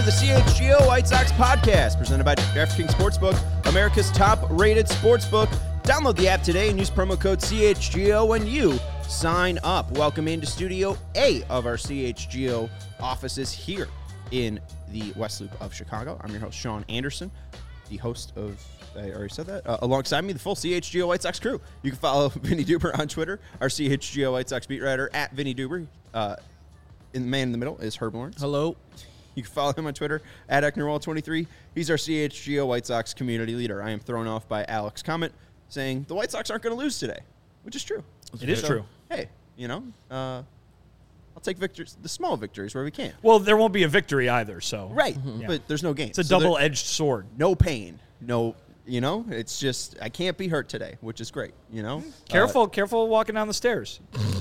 to the CHGO White Sox podcast, presented by DraftKings Sportsbook, America's top-rated sportsbook. Download the app today and use promo code CHGO when you sign up. Welcome into Studio A of our CHGO offices here in the West Loop of Chicago. I'm your host, Sean Anderson, the host of, I already said that, alongside me, the full CHGO White Sox crew. You can follow Vinny Duber on Twitter, our CHGO White Sox beat writer, at Vinny Duber. The man in the middle is Herb Lawrence. Hello. You can follow him on Twitter, at Ecknerwall23. He's our CHGO White Sox community leader. I am thrown off by Alex comment saying the White Sox aren't going to lose today, which is true. It is true. Hey, I'll take victories, the small victories where we can. Well, there won't be a victory either, so. Right, Yeah. but there's no game. It's a double-edged sword. No pain, it's just, I can't be hurt today, which is great, Careful walking down the stairs.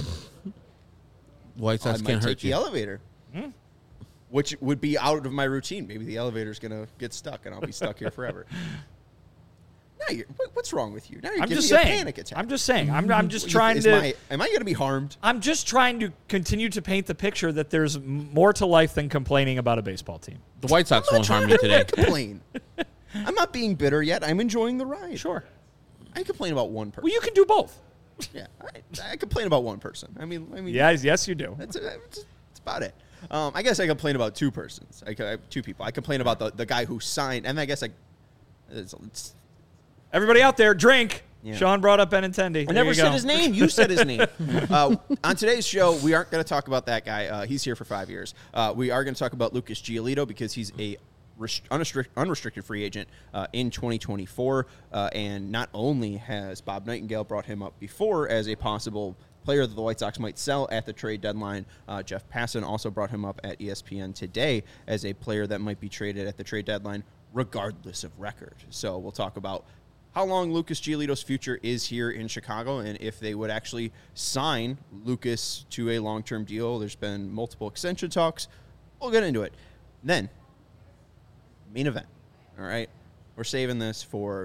White Sox I might can't take hurt the you. elevator, which would be out of my routine. Maybe the elevator's going to get stuck, and I'll be stuck here forever. Now what's wrong with you? Now you're I'm giving just me saying. a panic attack. I'm just saying. I'm just trying to. Am I going to be harmed? I'm just trying to continue to paint the picture that there's more to life than complaining about a baseball team. The White Sox I'm won't not harm you trying today. to complain. I'm not being bitter yet. I'm enjoying the ride. Sure. I complain about one person. Well, you can do both. Yeah, I complain about one person. I mean, Yes, you do. That's about it. I guess I complain about two persons. I have two people. I complain about the guy who signed, and I guess it's Everybody out there, drink. Yeah. Sean brought up Benintendi. I never said his name. You said his name. On today's show, we aren't going to talk about that guy. He's here for 5 years. We are going to talk about Lucas Giolito because he's a unrestricted free agent in 2024. And not only has Bob Nightingale brought him up before as a possible player that the White Sox might sell at the trade deadline, Jeff Passan also brought him up at ESPN today as a player that might be traded at the trade deadline regardless of record. So we'll talk about how long Lucas Giolito's future is here in Chicago and if they would actually sign Lucas to a long-term deal. There's been multiple extension talks. We'll get into it. Then, main event, all right? We're saving this for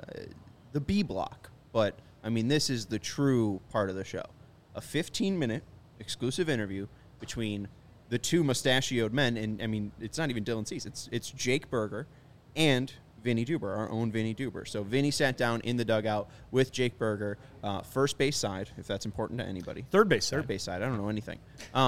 the B block, but, this is the true part of the show. A 15-minute exclusive interview between the two mustachioed men, and, it's not even Dylan Cease. It's Jake Burger and Vinny Duber, our own Vinny Duber. So Vinny sat down in the dugout with Jake Burger, first base side, if that's important to anybody. Third base side. Third base side. I don't know anything.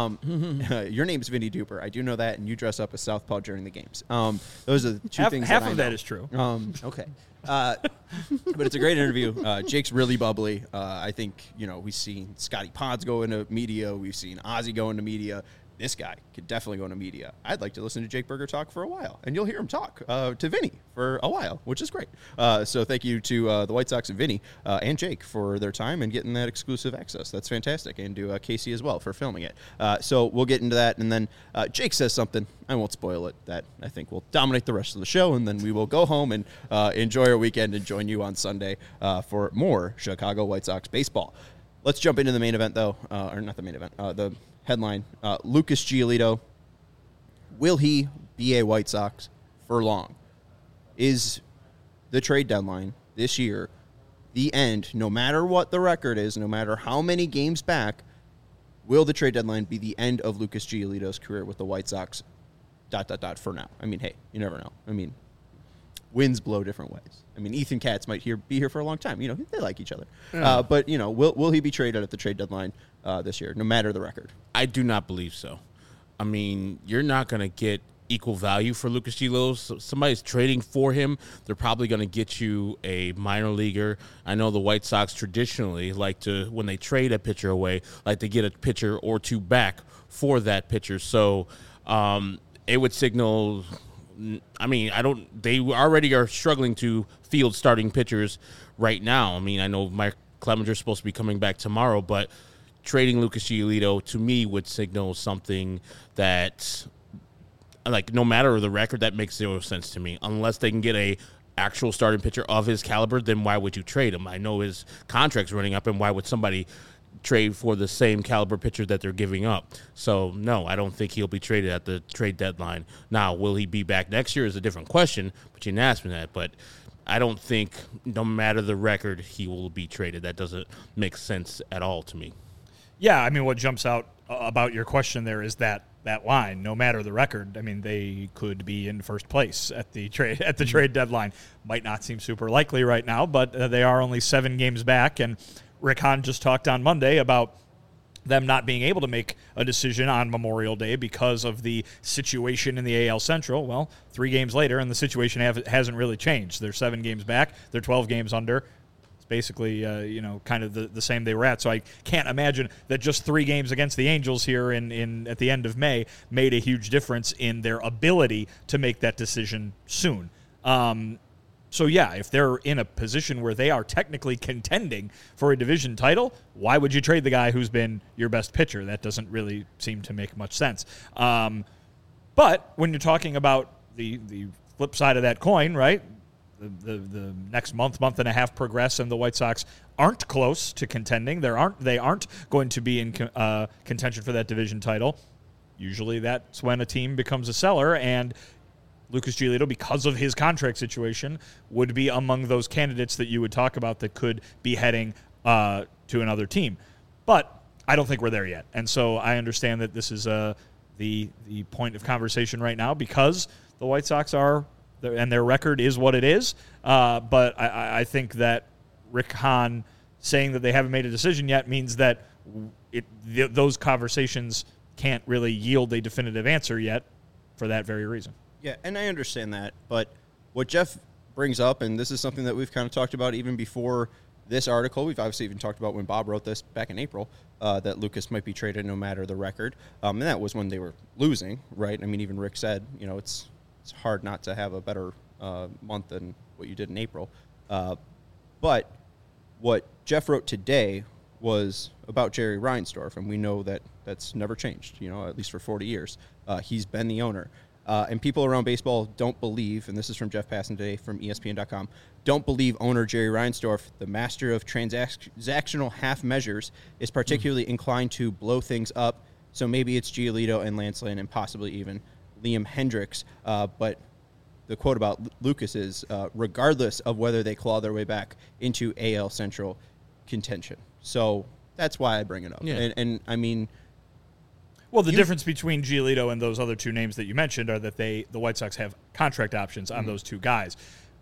Your name's Vinny Duber. I do know that, and you dress up as Southpaw during the games. Those are the two things. Half that of that is true. Okay. But it's a great interview. Jake's really bubbly. I think, we've seen Scotty Pods go into media. We've seen Ozzie go into media. This guy could definitely go into media. I'd like to listen to Jake Burger talk for a while, and you'll hear him talk to Vinny for a while, which is great. So thank you to the White Sox and Vinny and Jake for their time and getting that exclusive access. That's fantastic, and to Casey as well for filming it. So we'll get into that, and then Jake says something. I won't spoil it. That I think will dominate the rest of the show, and then we will go home and enjoy our weekend and join you on Sunday for more Chicago White Sox baseball. Let's jump into the main event, though, or not the main event, the headline, Lucas Giolito, will he be a White Sox for long? Is the trade deadline this year the end, no matter what the record is, no matter how many games back, will the trade deadline be the end of Lucas Giolito's career with the White Sox, ... for now? Hey, you never know. Winds blow different ways. Ethan Katz might be here for a long time. They like each other. Yeah. But, will he be traded at the trade deadline this year, no matter the record? I do not believe so. You're not going to get equal value for Lucas Giolito. So somebody's trading for him. They're probably going to get you a minor leaguer. I know the White Sox traditionally like to, when they trade a pitcher away, like to get a pitcher or two back for that pitcher. So it would signal... they already are struggling to field starting pitchers right now. I know Mike Clemenger's supposed to be coming back tomorrow, but trading Lucas Giolito to me would signal something that, no matter the record, that makes zero sense to me. Unless they can get a actual starting pitcher of his caliber, then why would you trade him? I know his contract's running up, and why would somebody trade for the same caliber pitcher that they're giving up? So, no, I don't think he'll be traded at the trade deadline. Now, will he be back next year is a different question, but you didn't ask me that. But I don't think, no matter the record, he will be traded. That doesn't make sense at all to me. Yeah, what jumps out about your question there is that that line, no matter the record. I mean, they could be in first place at the trade deadline. Might not seem super likely right now, but they are only 7 games back. And Rick Hahn just talked on Monday about them not being able to make a decision on Memorial Day because of the situation in the AL Central. Well, 3 games later, and the situation hasn't really changed. They're 7 games back. They're 12 games under. Basically, kind of the same they were at. So I can't imagine that just 3 games against the Angels here at the end of May made a huge difference in their ability to make that decision soon. So yeah, if they're in a position where they are technically contending for a division title, why would you trade the guy who's been your best pitcher? That doesn't really seem to make much sense. But when you're talking about the flip side of that coin, right? The next month and a half progress, and the White Sox aren't close to contending. They aren't going to be in contention for that division title. Usually, that's when a team becomes a seller, and Lucas Giolito, because of his contract situation, would be among those candidates that you would talk about that could be heading to another team. But I don't think we're there yet, and so I understand that this is the point of conversation right now because the White Sox are. And their record is what it is. But I think that Rick Hahn saying that they haven't made a decision yet means that those conversations can't really yield a definitive answer yet for that very reason. Yeah, and I understand that. But what Jeff brings up, and this is something that we've kind of talked about even before this article, we've obviously even talked about when Bob wrote this back in April, that Lucas might be traded no matter the record. And that was when they were losing, right? I mean, even Rick said, it's hard not to have a better month than what you did in April. But what Jeff wrote today was about Jerry Reinsdorf, and we know that that's never changed, at least for 40 years. He's been the owner. And people around baseball don't believe, and this is from Jeff Passan today from ESPN.com, don't believe owner Jerry Reinsdorf, the master of transactional half measures, is particularly inclined to blow things up. So maybe it's Giolito and Lance Lynn and possibly even Liam Hendriks, but the quote about Lucas is, regardless of whether they claw their way back into AL Central contention. So that's why I bring it up. Yeah. And I mean... Well, the difference between Giolito and those other 2 names that you mentioned are that the White Sox have contract options on those 2 guys.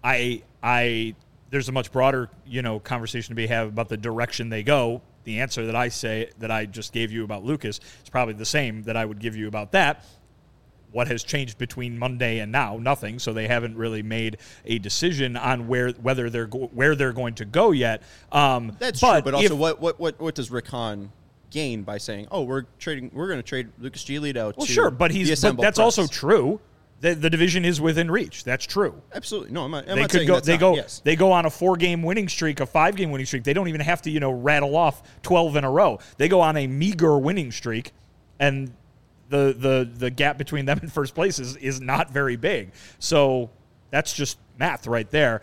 There's a much broader, conversation to be had about the direction they go. The answer that I just gave you about Lucas is probably the same that I would give you about that. What has changed between Monday and now? Nothing. So they haven't really made a decision on where they're going to go yet. That's true. But also, what does Rick Hahn gain by saying, "Oh, we're going to trade Lucas Giolito"? Well, sure, but that's also true. The division is within reach. That's true. Absolutely. No, I'm not they saying go. That's yes. They go on a 4-game winning streak, a 5-game winning streak. They don't even have to, rattle off 12 in a row. They go on a meager winning streak, and the gap between them and first place is not very big. So that's just math right there.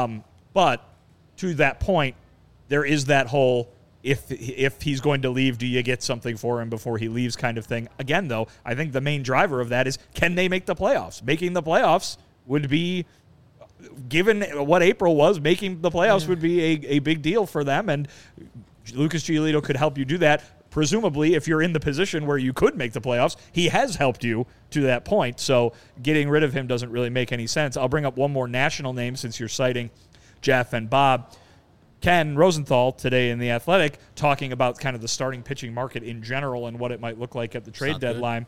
But to that point, there is that whole if he's going to leave, do you get something for him before he leaves kind of thing. Again, though, I think the main driver of that is can they make the playoffs? Making the playoffs would be, given what April was, making the playoffs would be a big deal for them, and Lucas Giolito could help you do that. Presumably, if you're in the position where you could make the playoffs, he has helped you to that point. So getting rid of him doesn't really make any sense. I'll bring up one more national name since you're citing Jeff and Bob. Ken Rosenthal today in The Athletic talking about kind of the starting pitching market in general and what it might look like at the trade deadline.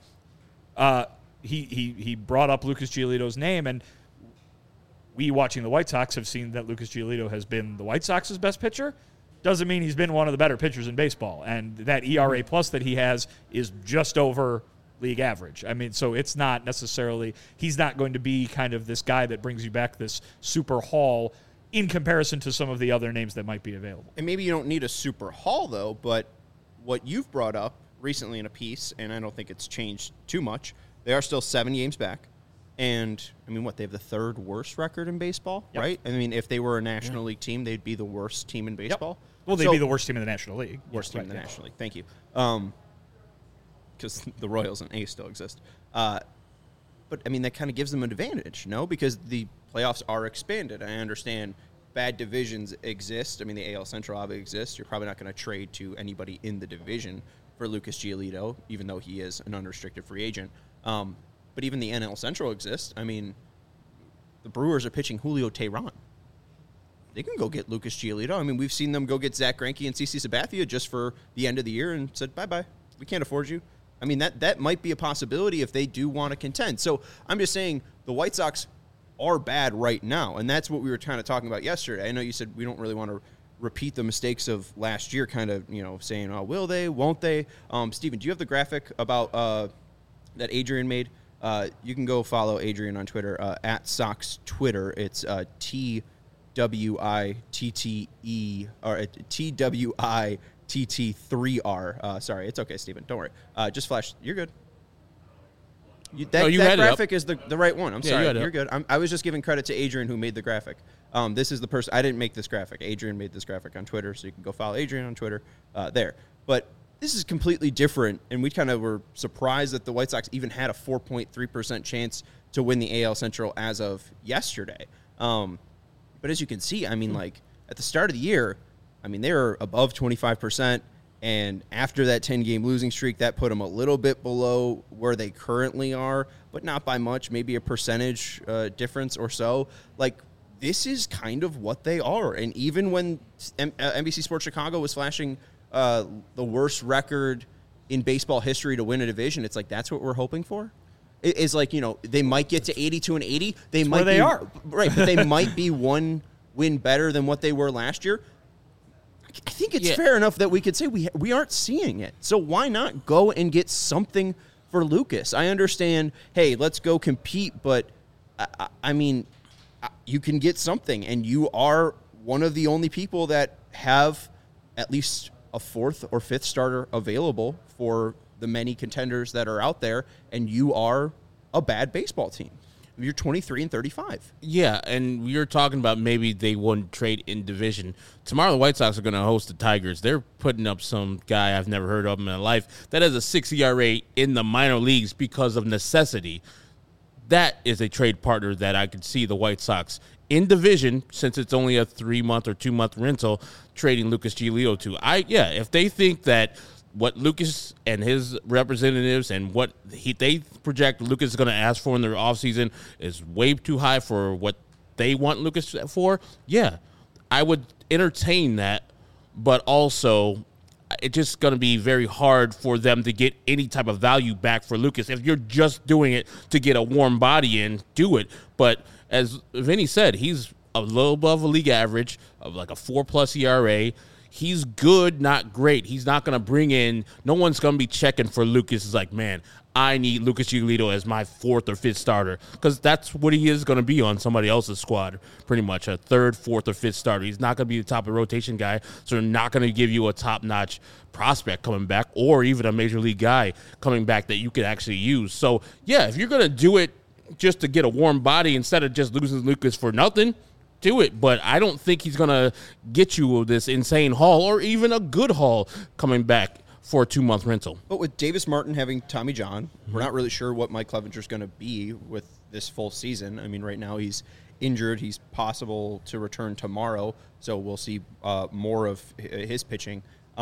He brought up Lucas Giolito's name, and we watching the White Sox have seen that Lucas Giolito has been the White Sox's best pitcher. Doesn't mean he's been one of the better pitchers in baseball. And that ERA plus that he has is just over league average. I mean, so it's not necessarily, he's not going to be kind of this guy that brings you back this super haul in comparison to some of the other names that might be available. And maybe you don't need a super haul, though, but what you've brought up recently in a piece, and I don't think it's changed too much, they are still 7 games back. And, I mean, they have the 3rd worst record in baseball, right? I mean, if they were a National League team, they'd be the worst team in baseball. Yep. Well, they'd be the worst team in the National League. Worst team in the National League. Thank you. Because the Royals and A's still exist. But, I mean, that kind of gives them an advantage, no? Because the playoffs are expanded. I understand bad divisions exist. I mean, the AL Central obviously exists. You're probably not going to trade to anybody in the division for Lucas Giolito, even though he is an unrestricted free agent. But even the NL Central exists. I mean, the Brewers are pitching Julio Teheran. They can go get Lucas Giolito. I mean, we've seen them go get Zach Greinke and CC Sabathia just for the end of the year and said, bye-bye. We can't afford you. I mean, that might be a possibility if they do want to contend. So I'm just saying the White Sox are bad right now, and that's what we were kind of talking about yesterday. I know you said we don't really want to repeat the mistakes of last year, kind of, saying, oh, will they, won't they? Steven, do you have the graphic about that Adrian made? You can go follow Adrian on Twitter, at Sox Twitter. It's TWITTE, or TWITT3R. Sorry, it's okay, Steven. Don't worry. Just flash. You're good. That graphic is the right one. I'm sorry. You're good. I was just giving credit to Adrian who made the graphic. This is the person. I didn't make this graphic. Adrian made this graphic on Twitter, so you can go follow Adrian on Twitter there. But this is completely different, and we kind of were surprised that the White Sox even had a 4.3% chance to win the AL Central as of yesterday. But as you can see, I mean, like, at the start of the year, I mean, they were above 25%, and after that 10-game losing streak, that put them a little bit below where they currently are, but not by much, maybe a percentage difference or so. Like, this is kind of what they are. And even when NBC Sports Chicago was flashing the worst record in baseball history to win a division, it's like, that's what we're hoping for? It's like, they might get to 82-80. They are. Right, but they might be one win better than what they were last year. I think it's fair enough that we could say we aren't seeing it. So why not go and get something for Lucas? I understand, hey, let's go compete, but I mean, you can get something, and you are one of the only people that have at least a fourth or fifth starter available for the many contenders that are out there, and you are a bad baseball team. You're 23-35. Yeah, and we were talking about maybe they wouldn't trade in division. Tomorrow the White Sox are going to host the Tigers. They're putting up some guy I've never heard of in my life that has a 6 ERA in the minor leagues because of necessity. That is a trade partner that I could see the White Sox in division, since it's only a 3-month or 2-month rental, trading Lucas Giolito to. If they think that what Lucas and his representatives and what they project Lucas is going to ask for in their offseason is way too high for what they want Lucas for, I would entertain that. But also, it's just going to be very hard for them to get any type of value back for Lucas. If you're just doing it to get a warm body in, do it. But as Vinny said, he's a little above a league average of like a 4+ ERA. He's good, not great. He's not going to bring in – no one's going to be checking for Lucas. It's like, man, I need Lucas Giolito as my 4th or 5th starter, because that's what he is going to be on somebody else's squad, pretty much, a 3rd, 4th, or 5th starter. He's not going to be the top of rotation guy, so they're not going to give you a top-notch prospect coming back or even a major league guy coming back that you could actually use. So, if you're going to do it just to get a warm body instead of just losing Lucas for nothing – do it, but I don't think he's going to get you this insane haul or even a good haul coming back for a 2-month rental. But with Davis Martin having Tommy John, we're not really sure what Mike Clevenger's going to be with this full season. I mean, right now he's injured. He's possible to return tomorrow, so we'll see more of his pitching.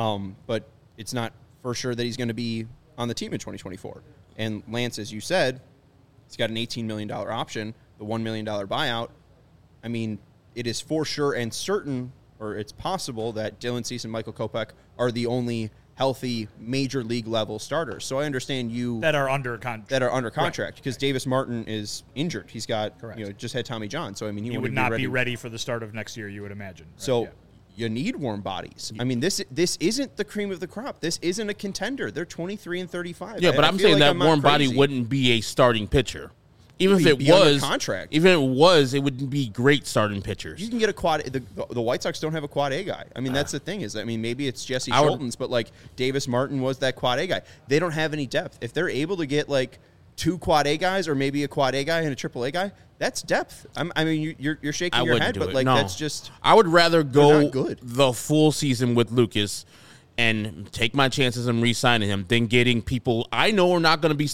But it's not for sure that he's going to be on the team in 2024. And Lance, as you said, he's got an $18 million option, the $1 million buyout. I mean, it is for sure and certain, or it's possible, that Dylan Cease and Michael Kopech are the only healthy major league level starters. So I understand you that are under contract because Davis Martin is injured. He's got just had Tommy John. So I mean, he would not be ready for the start of next year, you would imagine. Right? So you need warm bodies. I mean, this isn't the cream of the crop. This isn't a contender. They're 23-35. Yeah, but I'm saying that warm body wouldn't be a starting pitcher. Even if it was contract, it wouldn't be great starting pitchers. You can get a quad. The White Sox don't have a quad A guy. I mean, that's the thing is, I mean, maybe it's Jesse Schultens, but like Davis Martin was that quad A guy. They don't have any depth. If they're able to get like 2 quad A guys or maybe a quad A guy and a triple A guy, that's depth. I mean, you're shaking your head, but like that's just. I would rather go the full season with Lucas and take my chances in re-signing him than getting people I know are not going to be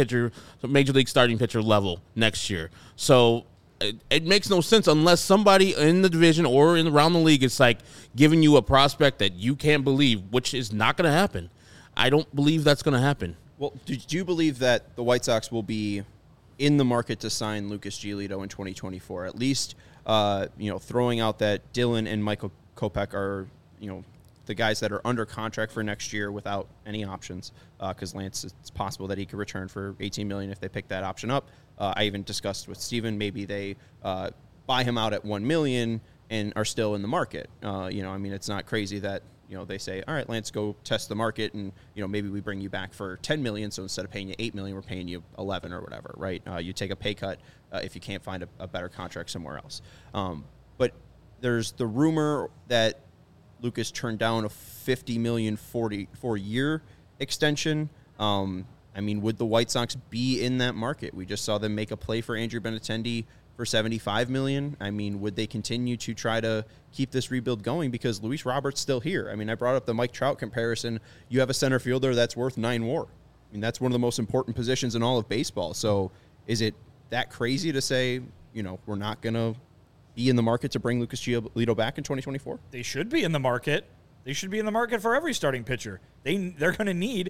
major league starting pitcher level next year. So it makes no sense unless somebody in the division or around the league is like giving you a prospect that you can't believe, which is not going to happen. I don't believe that's going to happen. Well, do you believe that the White Sox will be in the market to sign Lucas Giolito in 2024? At least, throwing out that Dylan and Michael Kopech are, the guys that are under contract for next year without any options. Because Lance, it's possible that he could return for $18 million if they pick that option up. I even discussed with Steven, maybe they buy him out at $1 million and are still in the market. It's not crazy that they say, all right, Lance, go test the market, and maybe we bring you back for $10 million. So instead of paying you $8 million, we're paying you $11 or whatever, right? You take a pay cut if you can't find a better contract somewhere else. But there's the rumor that Lucas turned down a $50 million 4-year extension. Would the White Sox be in that market? We just saw them make a play for Andrew Benintendi for $75 million. Would they continue to try to keep this rebuild going because Luis Robert's still here? I brought up the Mike Trout comparison. You have a center fielder that's worth $9 WAR. That's one of the most important positions in all of baseball. So is it that crazy to say, we're not going to be in the market to bring Lucas Giolito back in 2024? They should be in the market. They should be in the market for every starting pitcher. They're going to need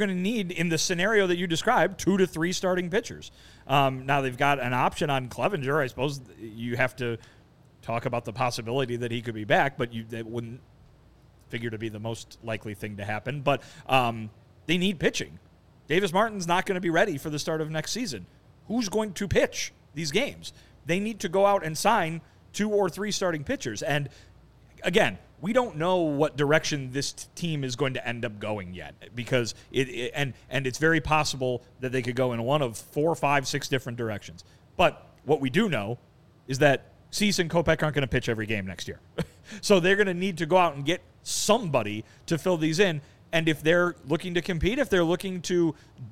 in the scenario that you described 2 to 3 starting pitchers. Now they've got an option on Clevenger. I suppose you have to talk about the possibility that he could be back, but that wouldn't figure to be the most likely thing to happen. But they need pitching. Davis Martin's not going to be ready for the start of next season. Who's going to pitch these games? They need to go out and sign 2 or 3 starting pitchers. And again, we don't know what direction this team is going to end up going yet, because it's very possible that they could go in one of 4, 5, 6 different directions. But what we do know is that Cease and Kopech aren't going to pitch every game next year. So they're going to need to go out and get somebody to fill these in. And if they're looking to compete, if they're looking to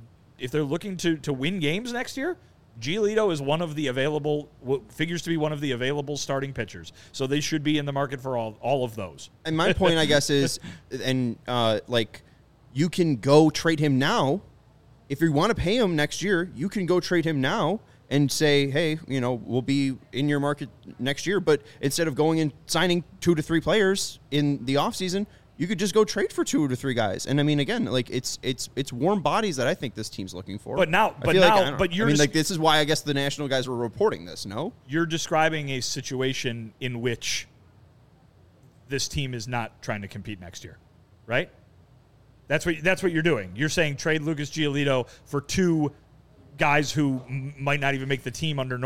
win games next year, Giolito is one of the available, figures to be one of the available starting pitchers. So they should be in the market for all of those. And my point, I guess, is, you can go trade him now. If you want to pay him next year, you can go trade him now and say, hey, we'll be in your market next year. But instead of going and signing 2 to 3 players in the offseason, you could just go trade for 2 to 3 guys. And again, it's warm bodies that I think this team's looking for. This is why I guess the national guys were reporting this. No, you're describing a situation in which this team is not trying to compete next year, right? That's what you're doing. You're saying trade Lucas Giolito for 2 guys who might not even make the team under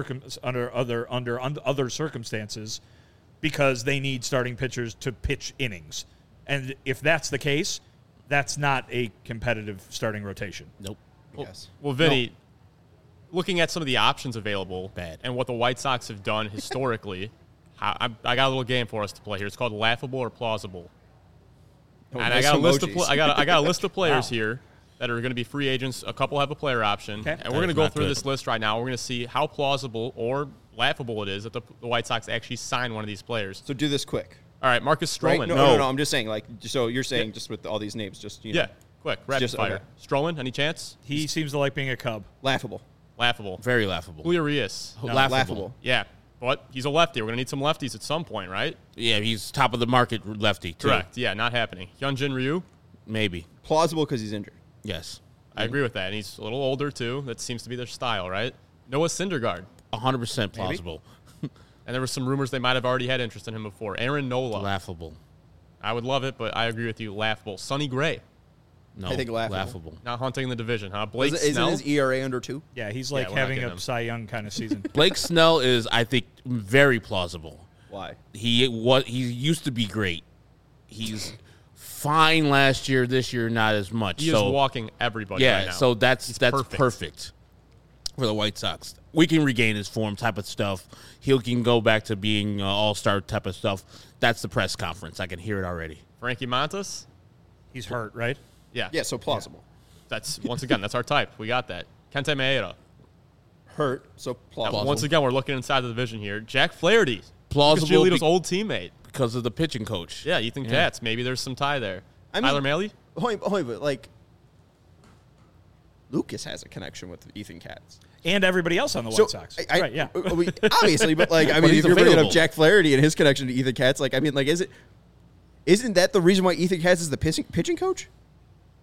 other circumstances, because they need starting pitchers to pitch innings. And if that's the case, that's not a competitive starting rotation. Nope. Well, Vinny, looking at some of the options available and what the White Sox have done historically, I got a little game for us to play here. It's called Laughable or Plausible. And I got a list of players here that are going to be free agents. A couple have a player option. Okay. And we're going to go through this list right now. We're going to see how plausible or laughable it is that the White Sox actually sign one of these players. So do this quick. All right, Marcus Stroman. Right? No. I'm just saying, so you're saying just with all these names, just, Yeah, quick, rapid fire. Okay. Stroman, any chance? He seems to like being a Cub. Laughable. Very laughable. Julio Urias. No. Laughable. Yeah, but he's a lefty. We're going to need some lefties at some point, right? Yeah, he's top of the market lefty, too. Correct. Yeah, not happening. Hyunjin Ryu? Maybe. Plausible because he's injured. Yes. I agree with that, and he's a little older, too. That seems to be their style, right? Noah Syndergaard. 100% plausible. And there were some rumors they might have already had interest in him before. Aaron Nola. Laughable. I would love it, but I agree with you. Laughable. Sonny Gray. No, I think laughable. Not hunting the division, huh? Blake Isn't Snell. his ERA under 2? Yeah, he's having a Cy Young kind of season. Blake Snell is, I think, very plausible. Why? He used to be great. He's fine last year. This year, not as much. He is walking everybody right now. Yeah, so that's perfect for the White Sox. We can regain his form type of stuff. He can go back to being all-star type of stuff. That's the press conference. I can hear it already. Frankie Montas? He's hurt, right? Yeah. Yeah, so plausible. That's, once again, that's our type. We got that. Kente Maeda. Hurt, so plausible. Once again, we're looking inside the division here. Jack Flaherty. Plausible. Giolito's old teammate. Because of the pitching coach. Yeah, Ethan Katz. Maybe there's some tie there. Tyler Mahle? But Lucas has a connection with Ethan Katz. And everybody else on the White Sox. Right, yeah. Obviously, but if you're bringing up Jack Flaherty and his connection to Ethan Katz, isn't that the reason why Ethan Katz is the pitching coach?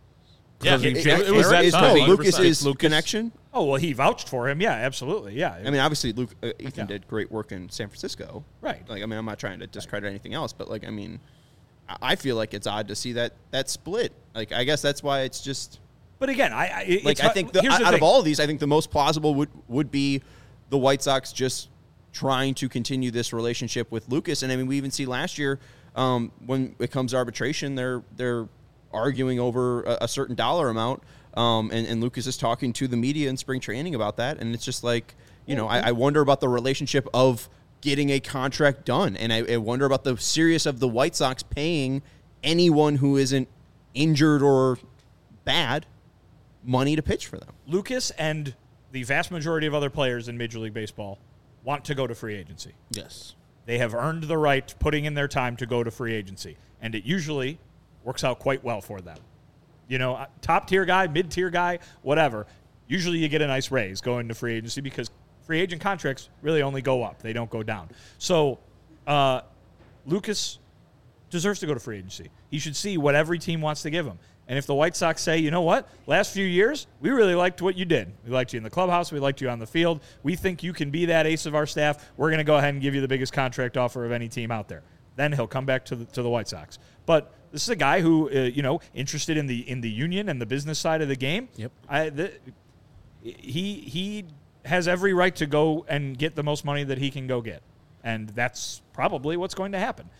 Yeah, Because it was that is time. no 100%. Lucas's Lucas. connection. Oh, well, he vouched for him. Yeah, absolutely. Yeah. I mean, obviously, Ethan Yeah. did great work in San Francisco. Right. Like, I mean, I'm not trying to discredit anything else, but like, I mean, I feel like it's odd to see that split. Like, I guess that's why it's just But again, like it's, I think here's the out of thing. all of these, I think the most plausible would be the White Sox just trying to continue this relationship with Lucas. And I mean, we even see last year when it comes to arbitration, they're arguing over a certain dollar amount, and Lucas is talking to the media in spring training about that. And it's just like, you know, I wonder about the relationship of getting a contract done, and I wonder about the seriousness of the White Sox paying anyone who isn't injured or bad money to pitch for them. Lucas and the vast majority of other players in Major League Baseball want to go to free agency. Yes. They have earned the right, putting in their time to go to free agency, and it usually works out quite well for them. You know, top-tier guy, mid-tier guy, whatever. Usually you get a nice raise going to free agency because free agent contracts really only go up. They don't go down. So Lucas deserves to go to free agency. He should see what every team wants to give him. And if the White Sox say, you know what, last few years, we really liked what you did. We liked you in the clubhouse. We liked you on the field. We think you can be that ace of our staff. We're going to go ahead and give you the biggest contract offer of any team out there. Then he'll come back to the White Sox. But this is a guy who, interested in the union and the business side of the game. Yep. He has every right to go and get the most money that he can go get. And that's probably what's going to happen.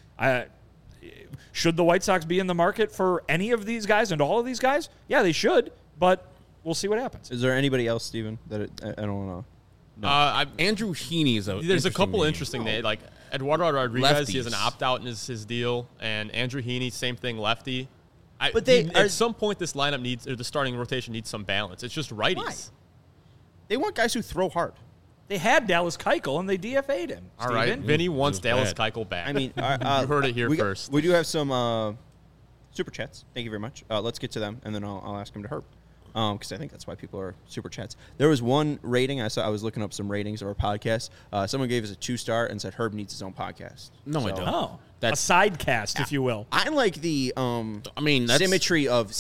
Should the White Sox be in the market for any of these guys and all of these guys? Yeah, they should, but we'll see what happens. Is there anybody else, Steven, that I don't want to... Andrew Heaney is a. There's a couple name. interesting names. Like Eduardo Rodriguez, he has an Lefties. opt-out in his deal, and Andrew Heaney, same thing, lefty. But at some point, this lineup needs, or the starting rotation needs some balance. It's just righties. Why? They want guys who throw hard. They had Dallas Keuchel, and they DFA'd him. All right, Steven. Vinny wants It was Dallas bad. Keuchel back. I mean, you heard it here first. We do have some super chats. Thank you very much. Let's get to them, and then I'll ask him to Herb, because I think that's why people are super chats. There was one rating I saw. I was looking up some ratings of our podcast. Someone gave us a 2-star and said Herb needs his own podcast. No, I don't. Oh, That's- a side cast, if you will. I like the I mean, that's symmetry of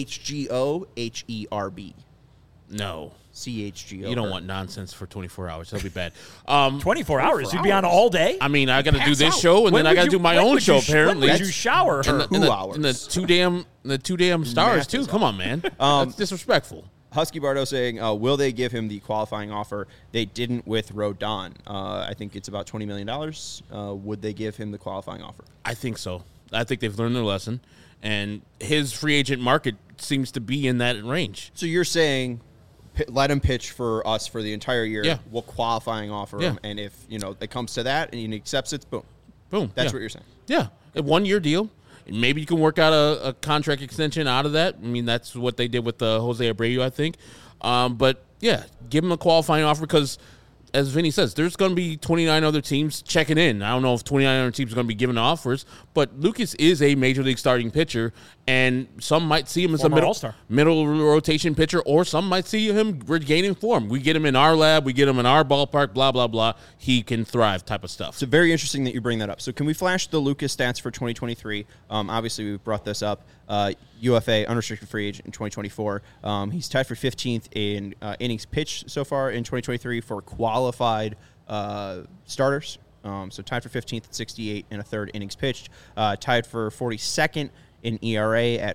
CHGOHERB. No. CHGO. You don't want nonsense for 24 hours. That'll be bad. 24 hours. You'd be on all day? I mean, I got to do Pass this out. show, and When then I would got to you- do my when own would show. you- Apparently, When would you shower her? 2 hours. the two damn stars Math too. is Come on, man. That's disrespectful. Husky Bardo saying, will they give him the qualifying offer? They didn't with Rodon. I think it's about $20 million. Would they give him the qualifying offer? I think so. I think they've learned their lesson, and his free agent market seems to be in that range. So you're saying let him pitch for us for the entire year. Yeah. We'll qualifying offer Yeah. him. And if, it comes to that and he accepts it, boom. Boom. That's yeah. what you're saying. Yeah, a 1-year deal. Maybe you can work out a contract extension out of that. I mean, that's what they did with Jose Abreu, I think. But, yeah, give him a qualifying offer because, as Vinny says, there's going to be 29 other teams checking in. I don't know if 29 other teams are going to be giving offers, but Lucas is a major league starting pitcher, and some might see him as Former a All-Star. middle rotation pitcher, or some might see him regaining form. We get him in our lab, we get him in our ballpark, blah, blah, blah. He can thrive type of stuff. So very interesting that you bring that up. So can we flash the Lucas stats for 2023? Obviously, we brought this up. UFA, unrestricted free agent in 2024. He's tied for 15th in innings pitched so far in 2023 for qualified starters. So tied for 15th at 68 and a third innings pitched. Tied for 42nd in ERA at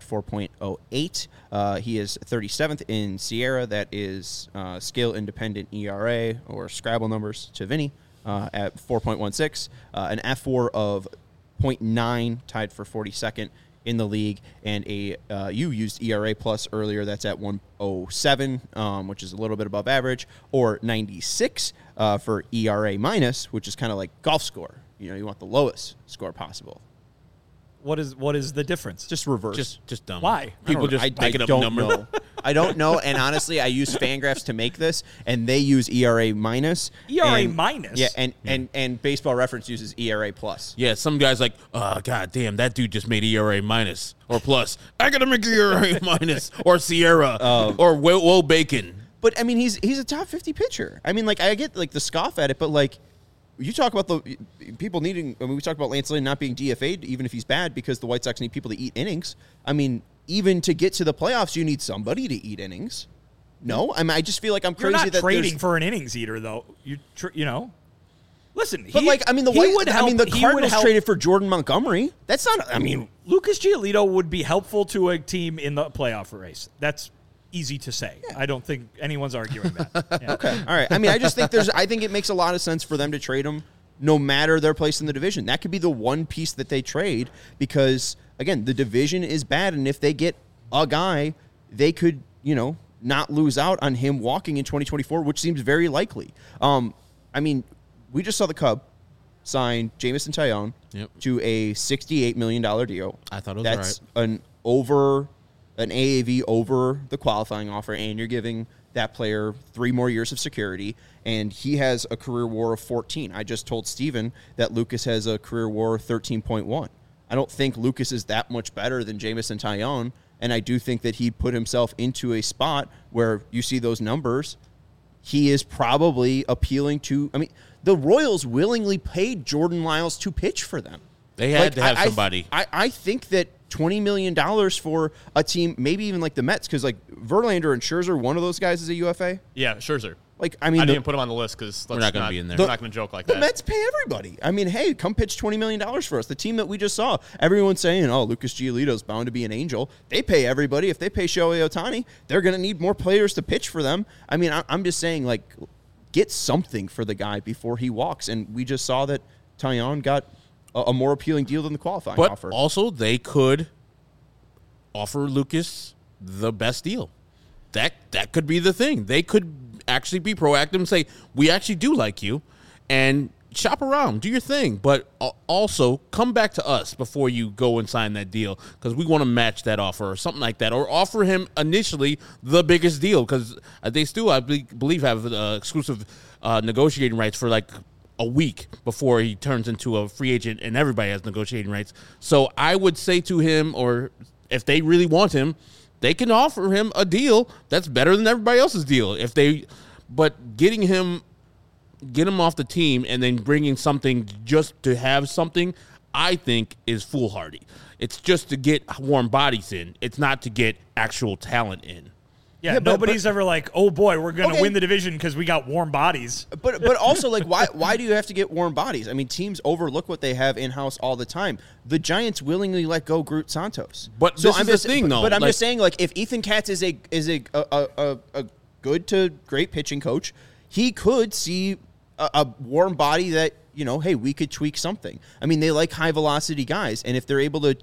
4.08. He is 37th in Sierra. That is skill independent ERA or Scrabble numbers to Vinny at 4.16. An F4 of 0.9, tied for 42nd in the league, and you used ERA plus earlier. That's at 107, which is a little bit above average, or 96 for ERA minus, which is kind of like golf score. You want the lowest score possible. What is the difference? Just reverse. Just dumb. Why? People just making up numbers. Know. I don't know, and honestly, I use Fangraphs to make this, and they use ERA minus. ERA and- minus? Yeah, and Baseball Reference uses ERA plus. Yeah, some guy's like, oh, god damn, that dude just made ERA minus or plus. I gotta make ERA minus or Sierra or Will Bacon. But I mean, he's a top 50 pitcher. I mean, like I get like the scoff at it, but like you talk about the people needing. I mean, we talk about Lance Lynn not being DFA'd even if he's bad because the White Sox need people to eat innings. I mean, even to get to the playoffs, you need somebody to eat innings. No, I mean, I just feel like I'm You're crazy not that trading for an innings eater, though. Listen, But the Cardinals traded for Jordan Montgomery. That's not. I mean, Lucas Giolito would be helpful to a team in the playoff race. That's easy to say. Yeah. I don't think anyone's arguing that. Yeah. Okay, all right. I mean, I just think I think it makes a lot of sense for them to trade him, no matter their place in the division. That could be the one piece that they trade because, again, the division is bad, and if they get a guy, they could, not lose out on him walking in 2024, which seems very likely. I mean, we just saw the Cubs sign Jameson Taillon to a $68 million deal. I thought it was That's right. An AAV over the qualifying offer, and you're giving that player 3 more years of security, and he has a career WAR of 14. I just told Steven that Lucas has a career WAR of 13.1. I don't think Lucas is that much better than Jameson Taillon, and I do think that he'd put himself into a spot where you see those numbers. He is probably appealing to – I mean, the Royals willingly paid Jordan Lyles to pitch for them. They had to have somebody. I think that $20 million for a team, maybe even like the Mets, because like Verlander and Scherzer, one of those guys is a UFA. Yeah, Scherzer. Like, I mean, I didn't put him on the list because we're not going to be in there. We're not going to joke like that. The Mets pay everybody. I mean, hey, come pitch $20 million for us. The team that we just saw, everyone's saying, oh, Lucas Giolito's bound to be an angel. They pay everybody. If they pay Shohei Ohtani, they're going to need more players to pitch for them. I mean, I'm just saying, like, get something for the guy before he walks. And we just saw that Taillon got a more appealing deal than the qualifying offer. But also, they could offer Lucas the best deal. That could be the thing. They could actually be proactive and say, we actually do like you, and shop around, do your thing, but also come back to us before you go and sign that deal because we want to match that offer or something like that, or offer him initially the biggest deal because they still, I believe, have exclusive negotiating rights for like a week before he turns into a free agent and everybody has negotiating rights. So I would say to him, or if they really want him, they can offer him a deal that's better than everybody else's deal. But get him off the team and then bringing something just to have something, I think is foolhardy. It's just to get warm bodies in. It's not to get actual talent in. Yeah, nobody's ever like, oh boy, we're going to win the division because we got warm bodies. But also, like, why do you have to get warm bodies? I mean, teams overlook what they have in-house all the time. The Giants willingly let go Groot Santos. But so this is the thing, though. But I'm just saying, like, if Ethan Katz is a good to great pitching coach, he could see a warm body that, hey, we could tweak something. I mean, they like high-velocity guys, and if they're able to,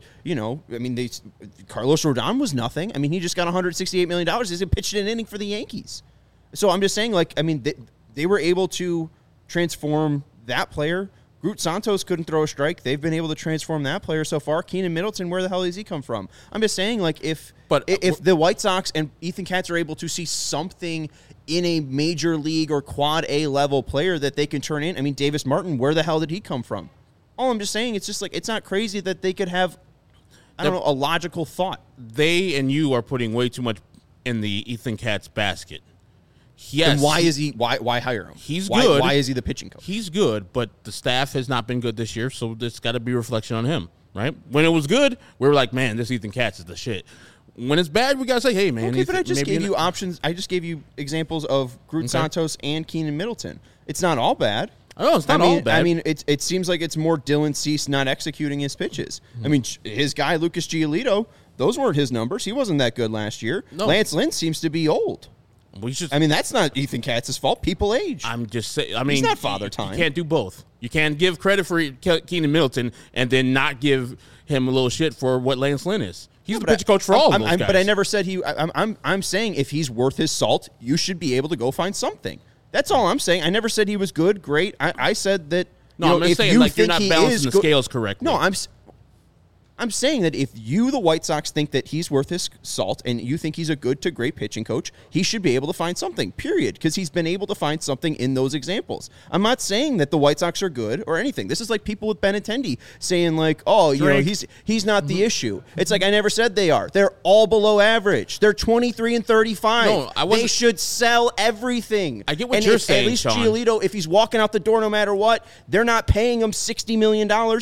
Carlos Rodon was nothing. I mean, he just got $168 million. He's pitched an inning for the Yankees. So I'm just saying, like, I mean, they were able to transform that player. Groot Santos couldn't throw a strike. They've been able to transform that player so far. Keenan Middleton, where the hell does he come from? I'm just saying, like, if the White Sox and Ethan Katz are able to see something in a major league or quad A level player that they can turn in, I mean, Davis Martin, where the hell did he come from? All I'm just saying, it's just like, it's not crazy that they could have, a logical thought. They and you are putting way too much in the Ethan Katz basket. Yes. And why hire him? He's good. Why is he the pitching coach? He's good, but the staff has not been good this year, so there's got to be a reflection on him, right? When it was good, we were like, man, this Ethan Katz is the shit. When it's bad, we got to say, hey, man. Okay, but I just gave you options. I just gave you examples of Groot Santos and Keenan Middleton. It's not all bad. Oh, it's not all bad. I mean, it seems like it's more Dylan Cease not executing his pitches. I mean, his guy, Lucas Giolito, those weren't his numbers. He wasn't that good last year. No. Lance Lynn seems to be old. I mean, that's not Ethan Katz's fault. People age. I'm just saying. I mean, he's not Father Time. You can't do both. You can't give credit for Keenan Middleton and then not give him a little shit for what Lance Lynn is. He's the pitch coach for all of those guys. But I never said he. I'm saying if he's worth his salt, you should be able to go find something. That's all I'm saying. I never said he was good, great. I said that. No, I'm just saying like you're not balancing the scales correctly. No, I'm saying that if you, the White Sox, think that he's worth his salt and you think he's a good to great pitching coach, he should be able to find something, period, because he's been able to find something in those examples. I'm not saying that the White Sox are good or anything. This is like people with Benintendi saying like, oh, he's not the issue. It's like I never said they are. They're all below average. They're 23-35. No, they should sell everything. I get what you're saying, at least Sean. Giolito, if he's walking out the door no matter what, they're not paying him $60 million.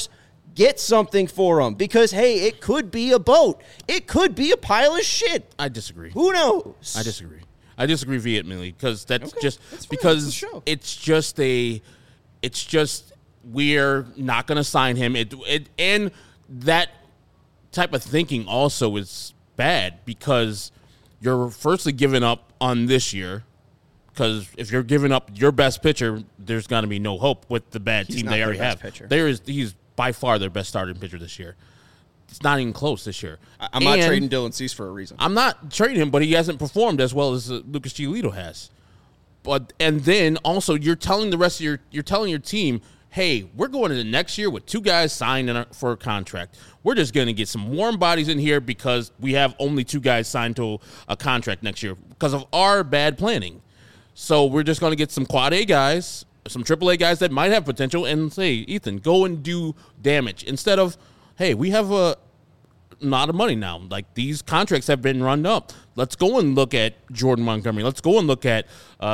Get something for him because, hey, it could be a boat. It could be a pile of shit. I disagree. Who knows? I disagree. I disagree vehemently because that's Okay, just that's fine. because It's a show. it's just we're not going to sign him. And that type of thinking also is bad because you're firstly giving up on this year. Because if you're giving up your best pitcher, there's going to be no hope with the bad team not they their already best have. pitcher. He's by far their best starting pitcher this year. It's not even close this year. I'm not And trading Dylan Cease for a reason. I'm not trading him, but he hasn't performed as well as Lucas Giolito has. And then also you're telling the rest of you're telling your team, hey, we're going into next year with 2 guys signed for a contract. We're just going to get some warm bodies in here because we have only 2 guys signed to a contract next year because of our bad planning. So we're just going to get some quad A guys, some triple A guys that might have potential, and say, Ethan, go and do damage instead of, hey, we have a lot of money now. Like, these contracts have been run up. Let's go and look at Jordan Montgomery. Let's go and look at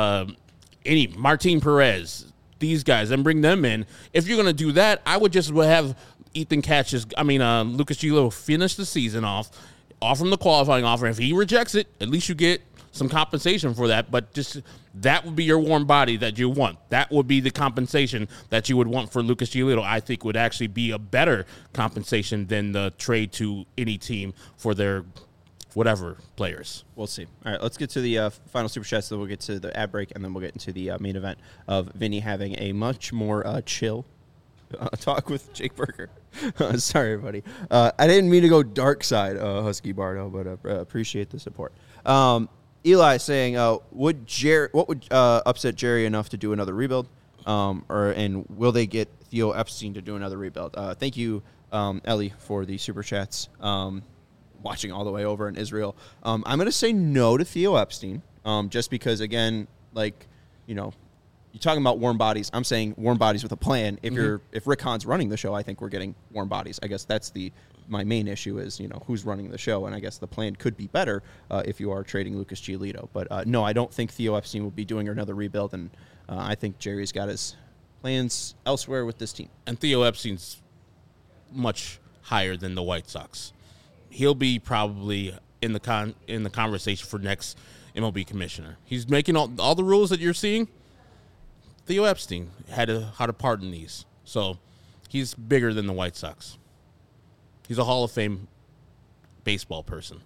Martin Perez, these guys, and bring them in. If you're going to do that, I would just have Lucas Giolito finish the season off, offer him the qualifying offer. If he rejects it, at least you get some compensation for that, but just that would be your warm body that you want. That would be the compensation that you would want for Lucas Giolito. I think would actually be a better compensation than the trade to any team for their whatever players. We'll see. All right, let's get to the final super chats. Then we'll get to the ad break, and then we'll get into the main event of Vinny having a much more chill talk with Jake Berger. Sorry, everybody. I didn't mean to go dark side, Husky Bardo, but appreciate the support. Eli saying, what would upset Jerry enough to do another rebuild? And will they get Theo Epstein to do another rebuild? Thank you, Ellie, for the super chats. Watching all the way over in Israel. I'm going to say no to Theo Epstein, just because, again, you're talking about warm bodies. I'm saying warm bodies with a plan. If Rick Hahn's running the show, I think we're getting warm bodies. I guess that's my main issue is, who's running the show, and I guess the plan could be better if you are trading Lucas Giolito. But no, I don't think Theo Epstein will be doing another rebuild, and I think Jerry's got his plans elsewhere with this team. And Theo Epstein's much higher than the White Sox. He'll be probably in the conversation for next MLB commissioner. He's making all the rules that you're seeing. Theo Epstein had a part in these, so he's bigger than the White Sox. He's a Hall of Fame baseball person.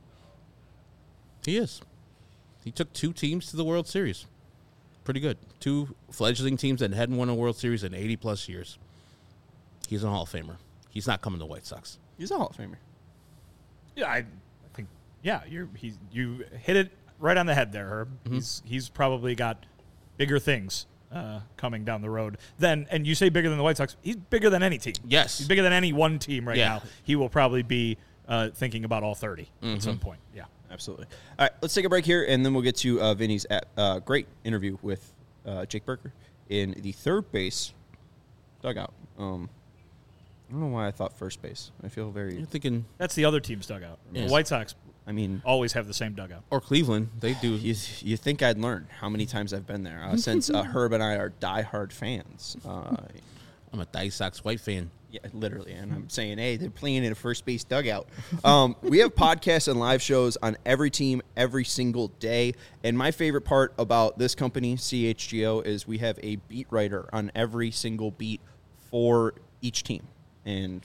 He is. He took 2 teams to the World Series. Pretty good. 2 fledgling teams that hadn't won a World Series in 80-plus years. He's a Hall of Famer. He's not coming to the White Sox. He's a Hall of Famer. Yeah, I think, you hit it right on the head there, Herb. Mm-hmm. He's probably got bigger things coming down the road. And you say bigger than the White Sox. He's bigger than any team. Yes. He's bigger than any one team right now. He will probably be thinking about all 30 at some point. Yeah. Absolutely. All right, let's take a break here, and then we'll get to Vinny's great interview with Jake Berger in the third base dugout. I don't know why I thought first base. I feel very... You're thinking... That's the other team's dugout. Yes. The White Sox always have the same dugout. Or Cleveland. They do. You think I'd learn how many times I've been there since Herb and I are diehard fans. I'm a White Sox White fan. Yeah, literally. And I'm saying, hey, they're playing in a first base dugout. We have podcasts and live shows on every team every single day. And my favorite part about this company, CHGO, is we have a beat writer on every single beat for each team. And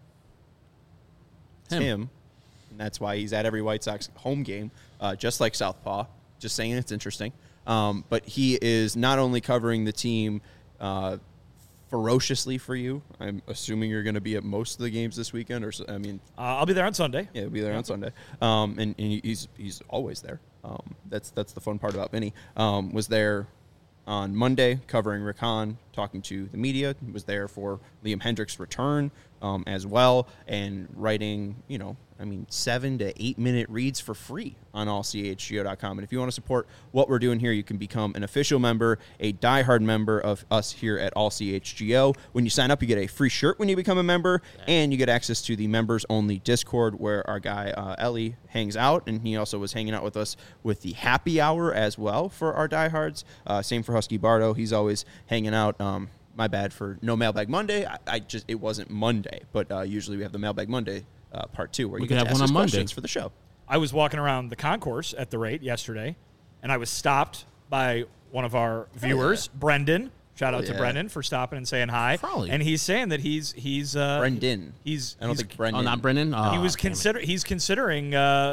it's him. And that's why he's at every White Sox home game, just like Southpaw. Just saying, it's interesting. But he is not only covering the team ferociously for you. I'm assuming you're going to be at most of the games this weekend, I'll be there on Sunday. Yeah, he'll be there on Sunday. And he's always there. That's the fun part about Vinny. Was there on Monday covering Rick Hahn, talking to the media. Was there for Liam Hendriks' return as well, and writing 7 to 8 minute reads for free on allchgo.com. And if you want to support what we're doing here, you can become an official member, a diehard member of us here at All CHGO. When you sign up, you get a free shirt when you become a member, and you get access to the members-only Discord where our guy Ellie hangs out, and he also was hanging out with us with the happy hour as well for our diehards. Same for Husky Bardo. He's always hanging out my bad for no Mailbag Monday. It wasn't Monday, but usually we have the Mailbag Monday part 2 where you can get to have ask one us on Monday questions for the show. I was walking around the concourse at the rate yesterday, and I was stopped by one of our viewers, Brendan. Shout out to Brendan for stopping and saying hi. Probably. And he's saying that he's Brendan. I don't think Brendan. Oh, not Brendan? Oh, he was considering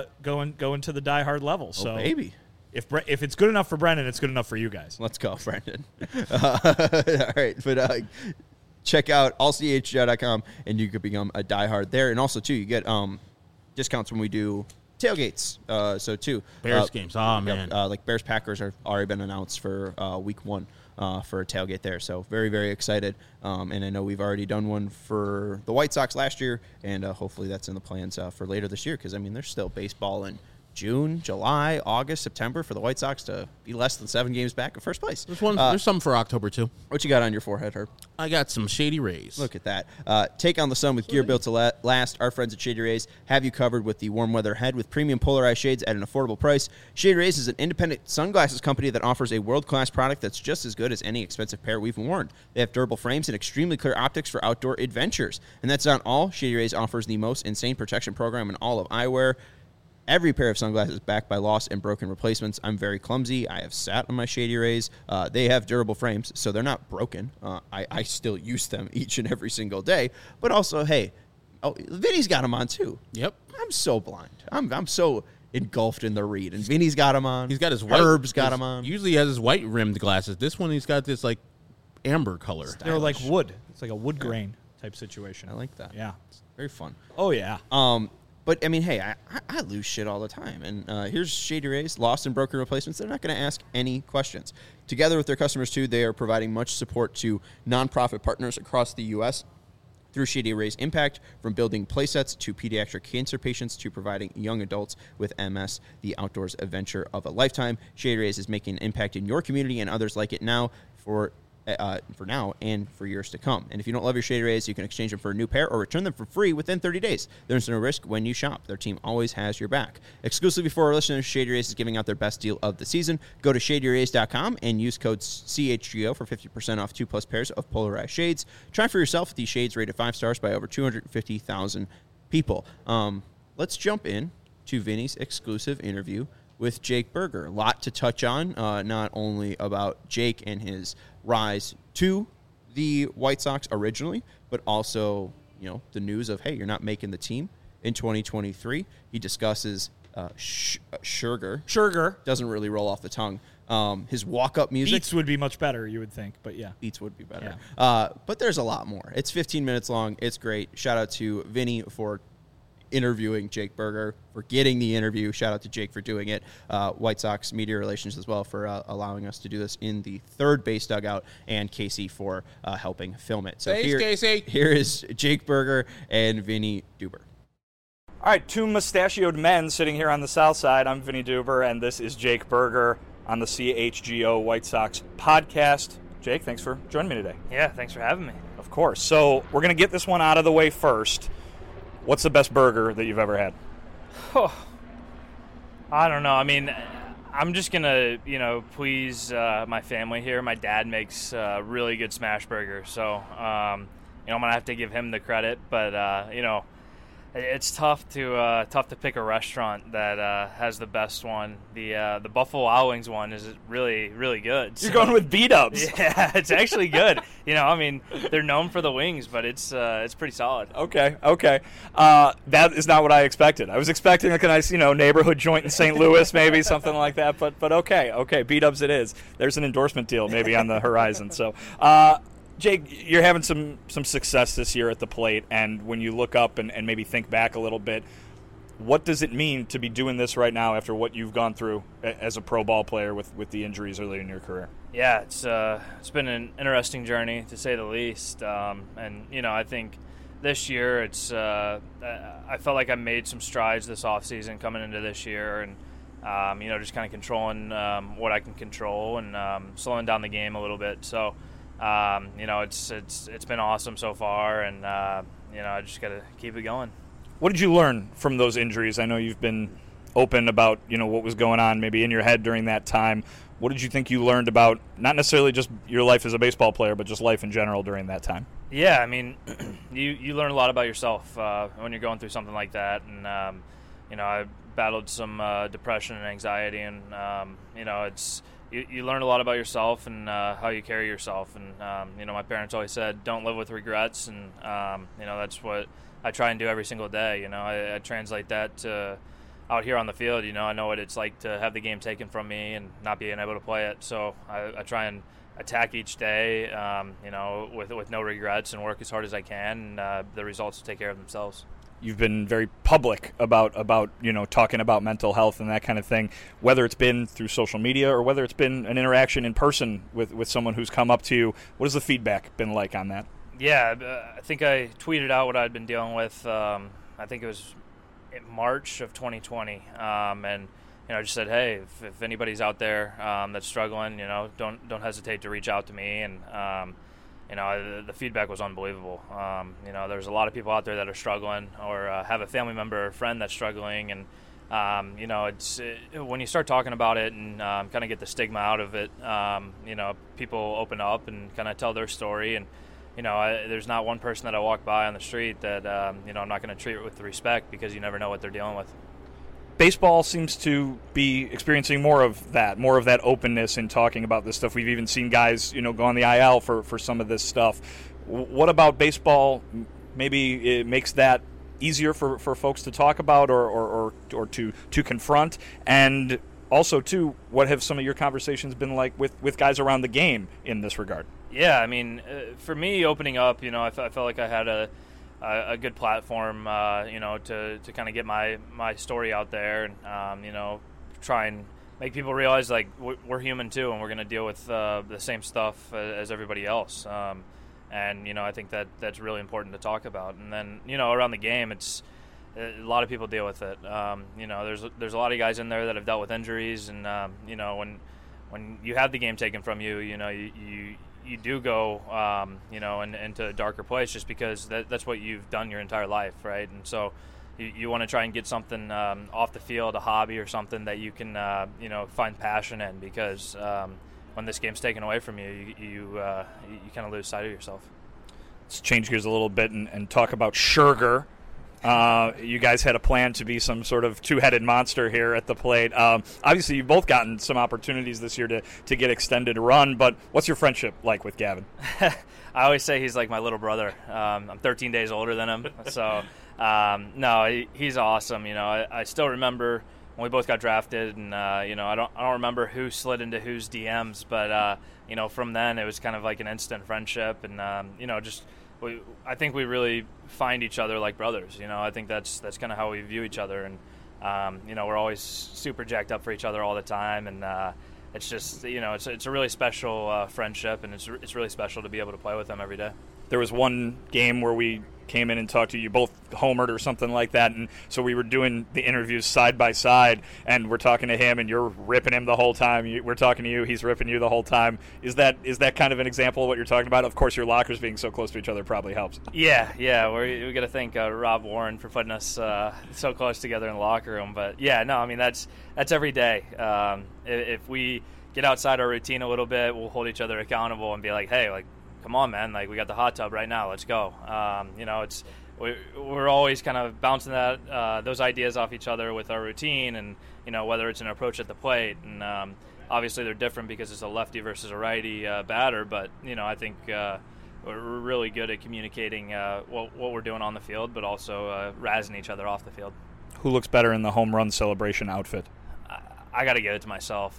going to the Die Hard level. So baby. If it's good enough for Brendan, it's good enough for you guys. Let's go, Brendan. All right, but check out allchgo.com, and you could become a diehard there. And also, too, you get discounts when we do tailgates. Bears games. Oh, man. Like Bears-Packers have already been announced for week 1 for a tailgate there. So very, very excited. And I know we've already done one for the White Sox last year, and hopefully that's in the plans for later this year because, I mean, there's still baseball in June, July, August, September for the White Sox to be less than 7 games back in first place. There's some for October, too. What you got on your forehead, Herb? I got some Shady Rays. Look at that. Take on the sun with gear built to last. Our friends at Shady Rays have you covered with the warm weather head with premium polarized shades at an affordable price. Shady Rays is an independent sunglasses company that offers a world-class product that's just as good as any expensive pair we've worn. They have durable frames and extremely clear optics for outdoor adventures. And that's not all. Shady Rays offers the most insane protection program in all of eyewear. Every pair of sunglasses backed by lost and broken replacements. I'm very clumsy. I have sat on my Shady Rays. They have durable frames, so they're not broken. I still use them each and every single day. But also, hey, Vinny's got them on too. Yep. I'm so blind. I'm so engulfed in the read. And Vinny's got them on. He's got his white. Herb's got them on. Usually he has his white rimmed glasses. This one he's got this like amber color. They're like wood. It's like a wood grain type situation. I like that. Yeah. It's very fun. Oh, yeah. But, I mean, hey, I lose shit all the time. And here's Shady Rays, lost and broken replacements. They're not going to ask any questions. Together with their customers, too, they are providing much support to nonprofit partners across the U.S. through Shady Rays Impact, from building playsets to pediatric cancer patients to providing young adults with MS the outdoors adventure of a lifetime. Shady Rays is making an impact in your community and others like it now for now and for years to come. And if you don't love your Shady Rays, you can exchange them for a new pair or return them for free within 30 days. There's no risk when you shop. Their team always has your back. Exclusively for our listeners, Shady Rays is giving out their best deal of the season. Go to shadyrays.com and use code CHGO for 50% off 2+ pairs of polarized shades. Try for yourself these shades rated 5 stars by over 250,000 people. Let's jump in to Vinny's exclusive interview with Jake Burger. A lot to touch on, not only about Jake and his rise to the White Sox originally, but also, you know, the news of, hey, you're not making the team in 2023. He discusses Scherzer. Doesn't really roll off the tongue. His walk-up music. Beats would be much better, you would think, but yeah. Beats would be better. Yeah. But there's a lot more. It's 15 minutes long. It's great. Shout out to Vinny for interviewing Jake Burger, for getting the interview. Shout out to Jake for doing it. White Sox media relations as well for allowing us to do this in the third base dugout, and Casey for helping film it. So Casey. Here is Jake Burger and Vinny Duber. All right, two mustachioed men sitting here on the south side. I'm Vinny Duber, and this is Jake Burger on the CHGO White Sox podcast. Jake, thanks for joining me today. Yeah, thanks for having me. Of course. So we're going to get this one out of the way first. What's the best burger that you've ever had? Oh, I don't know. I mean, I'm just going to, please my family here. My dad makes really good smash burgers, so, I'm going to have to give him the credit. But, it's tough to pick a restaurant that has the best one. The Buffalo Wild Wings one is really, really good. You're going with B-dubs. Yeah, it's actually good. They're known for the wings, but it's pretty solid. Okay. That is not what I expected. I was expecting like a nice, neighborhood joint in St. Louis, maybe something like that. But okay, B-dubs it is. There's an endorsement deal maybe on the horizon. So, Jake, you're having some success this year at the plate, and when you look up and maybe think back a little bit, what does it mean to be doing this right now after what you've gone through as a pro ball player with the injuries early in your career? Yeah, it's been an interesting journey, to say the least. I think this year I felt like I made some strides this offseason coming into this year, and just kind of controlling what I can control and slowing down the game a little bit. So, it's been awesome so far, and I just got to keep it going. What did you learn from those injuries? I know you've been open about what was going on maybe in your head during that time. What did you think you learned about not necessarily just your life as a baseball player, but just life in general during that time? Yeah, I mean, you learn a lot about yourself when you're going through something like that, and I battled some depression and anxiety, and it's you learn a lot about yourself and how you carry yourself, and my parents always said, don't live with regrets, and that's what I try and do every single day. I translate that to out here on the field. I know what it's like to have the game taken from me and not being able to play it, so I try and attack each day, with no regrets, and work as hard as I can, and the results will take care of themselves. You've been very public about talking about mental health and that kind of thing, whether it's been through social media or whether it's been an interaction in person with someone who's come up to you. What has the feedback been like on that? Yeah, I think I tweeted out what I'd been dealing with. I think it was in March of 2020, and I just said, hey, if anybody's out there that's struggling, don't hesitate to reach out to me. And the feedback was unbelievable. There's a lot of people out there that are struggling, or have a family member or friend that's struggling, and when you start talking about it and kind of get the stigma out of it, people open up and kind of tell their story, and there's not one person that I walk by on the street that I'm not going to treat with respect, because you never know what they're dealing with. Baseball seems to be experiencing more of that openness in talking about this stuff. We've even seen guys, go on the IL for some of this stuff. What about baseball? Maybe it makes that easier for folks to talk about or to confront. And also, too, what have some of your conversations been like with guys around the game in this regard? Yeah, I mean, for me, opening up, I felt like I had a good platform, to kind of get my story out there, and try and make people realize, like, we're human too, and we're going to deal with the same stuff as everybody else. And I think that's really important to talk about. And then around the game, it's a lot of people deal with it. There's a lot of guys in there that have dealt with injuries, and when you have the game taken from you, you do go, into a darker place, just because that's what you've done your entire life, right? And so you want to try and get something off the field, a hobby or something that you can, find passion in, because when this game's taken away from you, you kind of lose sight of yourself. Let's change gears a little bit and talk about Scherger. You guys had a plan to be some sort of two-headed monster here at the plate. Obviously, you've both gotten some opportunities this year to get extended run, but what's your friendship like with Gavin? I always say he's like my little brother. I'm 13 days older than him, so no, he's awesome. I still remember when we both got drafted, and I don't remember who slid into whose DMs, but from then it was kind of like an instant friendship, and I think we really find each other like brothers. I think that's kind of how we view each other, and we're always super jacked up for each other all the time, and it's just it's a really special friendship, and it's really special to be able to play with them every day. There was one game where we came in and talked to you, both homered or something like that, and so we were doing the interviews side by side, and we're talking to him, and you're ripping him the whole time. We're talking to you, he's ripping you the whole time. Is that kind of an example of what you're talking about? Of course, your lockers being so close to each other probably helps. Yeah, we got to thank Rob Warren for putting us so close together in the locker room. But yeah, no, I mean that's every day. If we get outside our routine a little bit, we'll hold each other accountable and be like, hey, like, come on, man, like, we got the hot tub right now, let's go. We're always kind of bouncing those ideas off each other with our routine, and whether it's an approach at the plate, and obviously they're different because it's a lefty versus a righty batter, but I think we're really good at communicating what we're doing on the field, but also razzing each other off the field. Who looks better in the home run celebration outfit? I got to give it to myself,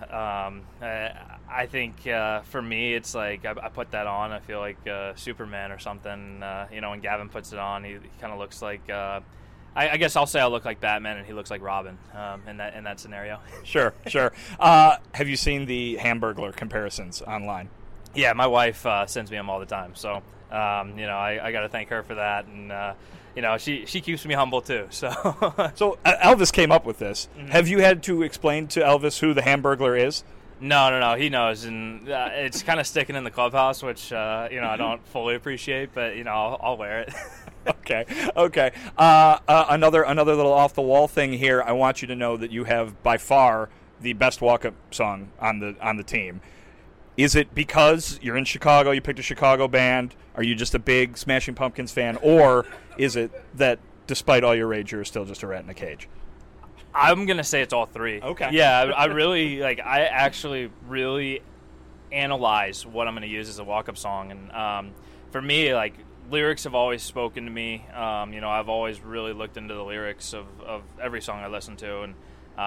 I think for me, it's like I put that on. I feel like Superman or something. When Gavin puts it on, he kind of looks like. I guess I'll say I look like Batman, and he looks like Robin in that scenario. Sure. Have you seen the Hamburglar comparisons online? Yeah, my wife sends me them all the time. So I got to thank her for that, and. She keeps me humble too. So Elvis came up with this. Mm-hmm. Have you had to explain to Elvis who the Hamburglar is? No. He knows, and it's kind of sticking in the clubhouse, which I don't fully appreciate, but I'll wear it. Okay. Another little off the wall thing here. I want you to know that you have by far the best walk-up song on the team. Is it because you're in Chicago, you picked a Chicago band? Are you just a big Smashing Pumpkins fan? Or is it that despite all your rage, you're still just a rat in a cage? I'm going to say it's all three. Okay. Yeah, I actually really analyze what I'm going to use as a walk-up song. And for me, like, lyrics have always spoken to me. I've always really looked into the lyrics of every song I listen to. And,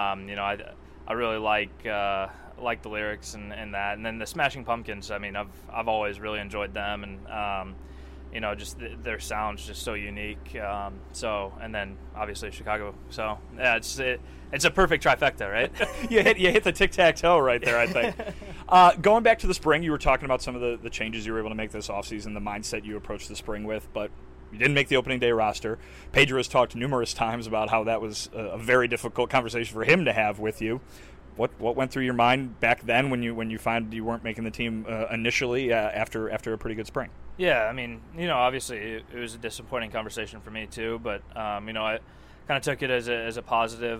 I really like the lyrics and that. And then the Smashing Pumpkins, I mean, I've always really enjoyed them. And, just their sound's just so unique. And then obviously Chicago. So yeah, it's a perfect trifecta, right? you hit the tic-tac-toe right there, I think. Going back to the spring, you were talking about some of the changes you were able to make this offseason, the mindset you approached the spring with, but you didn't make the opening day roster. Pedro has talked numerous times about how that was a very difficult conversation for him to have with you. What went through your mind back then when you found you weren't making the team initially after a pretty good spring? Yeah, I mean, obviously it was a disappointing conversation for me too, but I kind of took it as a positive.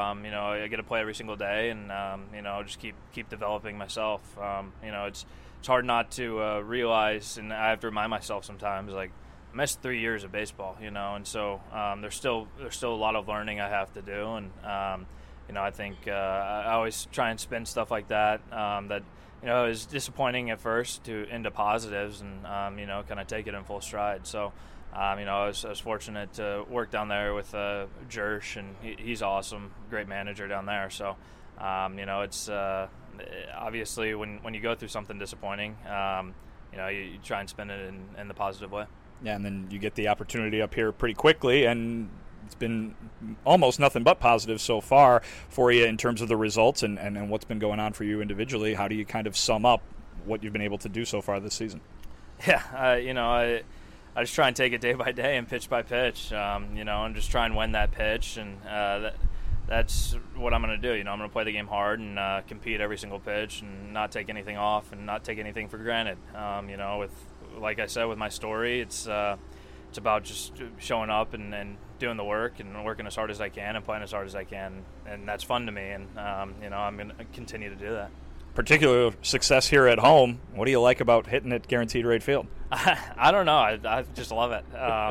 I get to play every single day, and just keep developing myself. It's hard not to realize, and I have to remind myself sometimes, like, I missed 3 years of baseball, and so there's still a lot of learning I have to do, and I think I always try and spin stuff like that. It was disappointing at first into positives, and kind of take it in full stride. So, I was fortunate to work down there with Jersh, and he's awesome, great manager down there. So, it's obviously when you go through something disappointing, you try and spin it in the positive way. Yeah, and then you get the opportunity up here pretty quickly, and it's been almost nothing but positive so far for you in terms of the results and what's been going on for you individually. How do you kind of sum up what you've been able to do so far this season? Yeah, I just try and take it day by day and pitch by pitch, and just try and win that pitch, and that's what I'm going to do. I'm going to play the game hard and compete every single pitch and not take anything off and not take anything for granted. Like I said, with my story, it's about just showing up and doing the work and working as hard as I can and playing as hard as I can, and that's fun to me. And I'm going to continue to do that. Particular success here at home. What do you like about hitting at Guaranteed Rate Field? I don't know. I just love it.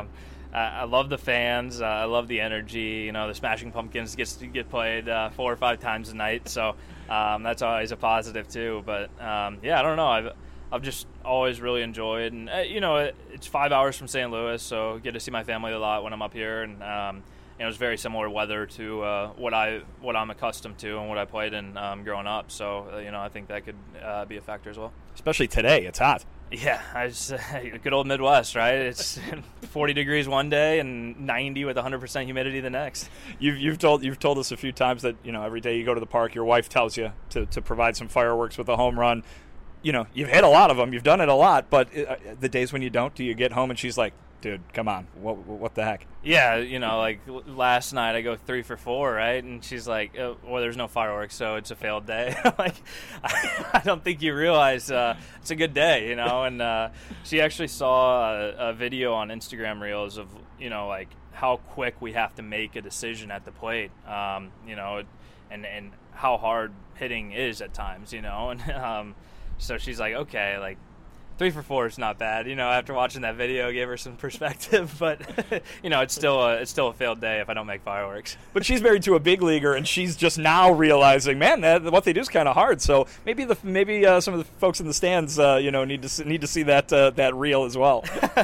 I love the fans. I love the energy. The Smashing Pumpkins gets to get played 4 or 5 times a night, so that's always a positive too. But I don't know. I've just always really enjoyed, and it's 5 hours from St. Louis, so I get to see my family a lot when I'm up here, and it's very similar weather to what I'm accustomed to and what I played in growing up. So I think that could be a factor as well. Especially today, it's hot. Yeah, good old Midwest, right? It's 40 degrees one day and 90 with 100% humidity the next. You've told us a few times that every day you go to the park, your wife tells you to provide some fireworks with a home run. You've hit a lot of them, you've done it a lot, but the days when you don't, do you get home and she's like, dude, come on, what the heck? Yeah, like last night I go 3 for 4, right? And she's like, well, there's no fireworks, so it's a failed day. Like, I don't think you realize it's a good day, and she actually saw a video on Instagram Reels of, like how quick we have to make a decision at the plate, and how hard hitting is at times, and so she's like, okay, like 3 for 4 is not bad. After watching that video, gave her some perspective. But it's still a failed day if I don't make fireworks. But she's married to a big leaguer, and she's just now realizing, man, what they do is kind of hard. So maybe some of the folks in the stands, need to see that reel as well.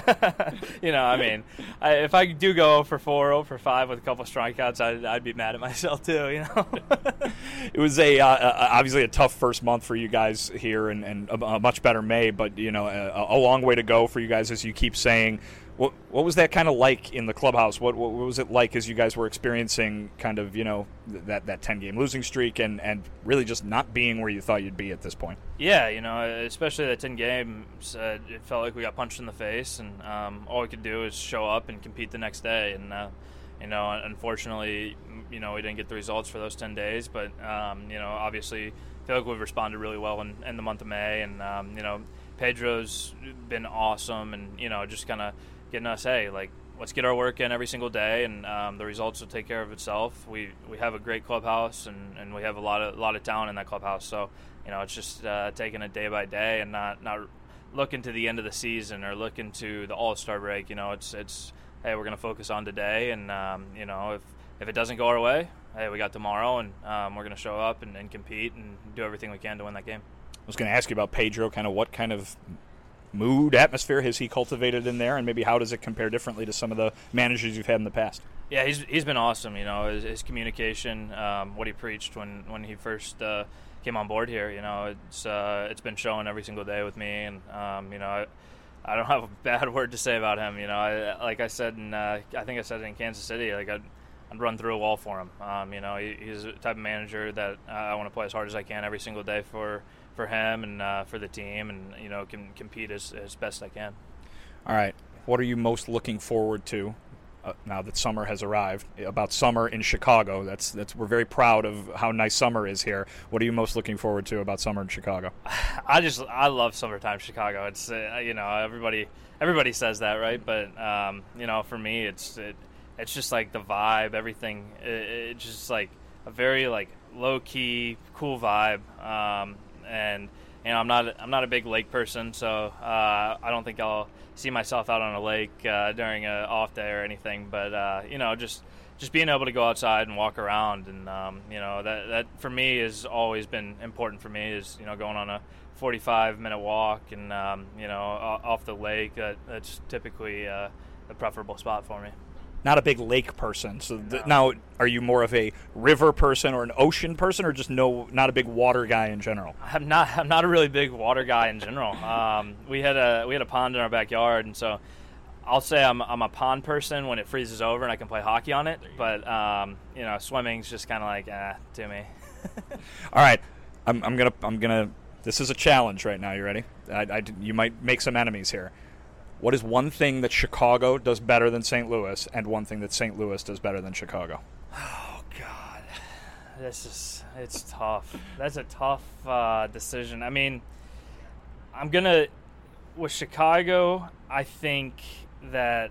If I do go 0 for 4, 0 for 5 with a couple strikeouts, I'd be mad at myself too. It was obviously a tough first month for you guys here, and a much better May, but a long way to go for you guys, as you keep saying. What was that kind of like in the clubhouse? What was it like as you guys were experiencing kind of that 10-game losing streak and really just not being where you thought you'd be at this point? Yeah, especially that 10 games, it felt like we got punched in the face, and all we could do is show up and compete the next day. And unfortunately, we didn't get the results for those 10 days, but obviously, I feel like we've responded really well in the month of May, and Pedro's been awesome, and just kind of getting us, hey, like, let's get our work in every single day, and the results will take care of itself. We have a great clubhouse, and we have a lot of talent in that clubhouse. So, it's just taking it day by day and not looking to the end of the season or looking to the All-Star break. It's hey, we're going to focus on today, and if it doesn't go our way, hey, we got tomorrow, and we're going to show up and compete and do everything we can to win that game. I was going to ask you about Pedro, kind of what kind of mood, atmosphere has he cultivated in there, and maybe how does it compare differently to some of the managers you've had in the past? Yeah, he's been awesome. His communication, what he preached when he first came on board here. It's been showing every single day with me, and I don't have a bad word to say about him. Like I said, I think I said it in Kansas City. Like I'd run through a wall for him. He's the type of manager that I want to play as hard as I can every single day for him and for the team, and can compete as best I can. All right, what are you most looking forward to now that summer has arrived? About summer in Chicago, that's we're very proud of how nice summer is here. What are you most looking forward to about summer in Chicago? I love summertime Chicago. It's everybody says that, right? But for me, it's just like the vibe, everything. It's just like a very like low key, cool vibe. And I'm not a big lake person, so I don't think I'll see myself out on a lake during an off day or anything. But just being able to go outside and walk around, and that for me has always been important for me. Is going on a 45-minute walk and off the lake. That's typically the preferable spot for me. Not a big lake person. So now, are you more of a river person or an ocean person, or just not a big water guy in general? I'm not a really big water guy in general. We had a pond in our backyard, and so I'll say I'm a pond person when it freezes over and I can play hockey on it. But swimming's just kind of like to me. All right, I'm gonna. This is a challenge right now. You ready? You might make some enemies here. What is one thing that Chicago does better than St. Louis, and one thing that St. Louis does better than Chicago? Oh, God. It's tough. That's a tough decision. I mean, with Chicago, I think that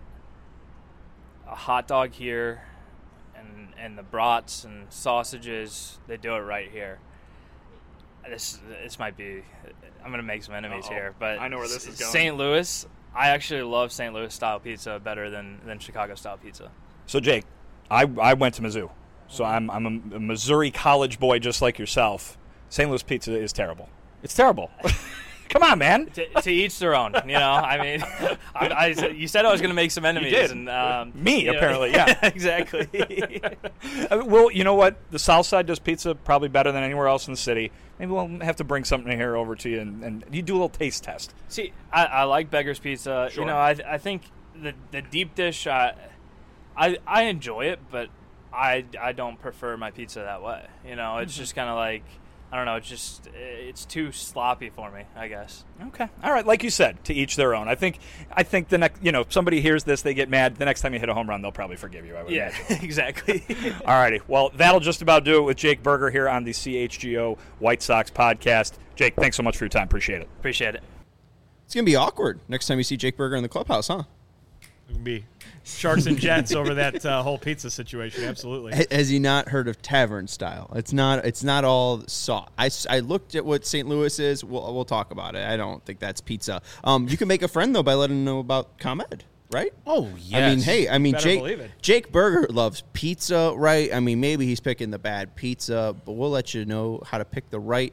a hot dog here and the brats and sausages, they do it right here. This might be, I'm going to make some enemies here, but I know where this is going. St. Louis, I actually love St. Louis style pizza better than Chicago style pizza. So Jake, I went to Mizzou, so I'm a Missouri college boy just like yourself. St. Louis pizza is terrible. It's terrible. Come on, man. To each their own. I mean, you said I was going to make some enemies. You did. And Me, apparently, yeah. Exactly. Well, you know what? The South Side does pizza probably better than anywhere else in the city. Maybe we'll have to bring something here over to you, and you do a little taste test. See, I like Beggar's Pizza. Sure. I think the deep dish, I enjoy it, but I don't prefer my pizza that way. It's just kind of like, I don't know. It's too sloppy for me, I guess. Okay. All right. Like you said, to each their own. I think the next, somebody hears this, they get mad. The next time you hit a home run, they'll probably forgive you. I would imagine. Exactly. All righty. Well, that'll just about do it with Jake Burger here on the CHGO White Sox podcast. Jake, thanks so much for your time. Appreciate it. Appreciate it. It's going to be awkward next time you see Jake Burger in the clubhouse, huh? It can be Sharks and Jets over that whole pizza situation. Absolutely. Has he not heard of tavern style? It's not all sauce. I looked at what St. Louis is. We'll talk about it. I don't think that's pizza. You can make a friend though by letting him know about ComEd, right? Oh yes. Jake Burger loves pizza, right? I mean, maybe he's picking the bad pizza, but we'll let you know how to pick the right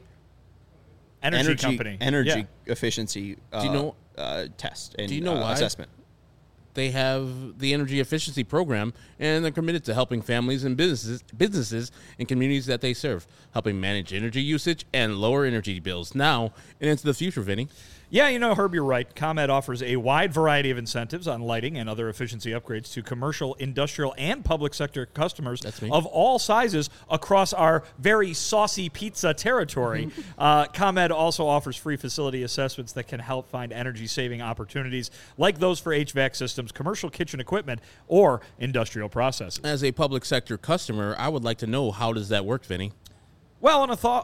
energy efficiency. Test and do you know why? Assessment. They have the energy efficiency program, and they're committed to helping families and businesses and communities that they serve, helping manage energy usage and lower energy bills now and into the future, Vinny. Yeah, Herb, you're right. ComEd offers a wide variety of incentives on lighting and other efficiency upgrades to commercial, industrial, and public sector customers of all sizes across our very saucy pizza territory. ComEd also offers free facility assessments that can help find energy-saving opportunities like those for HVAC systems, commercial kitchen equipment, or industrial processes. As a public sector customer, I would like to know, how does that work, Vinny? Well,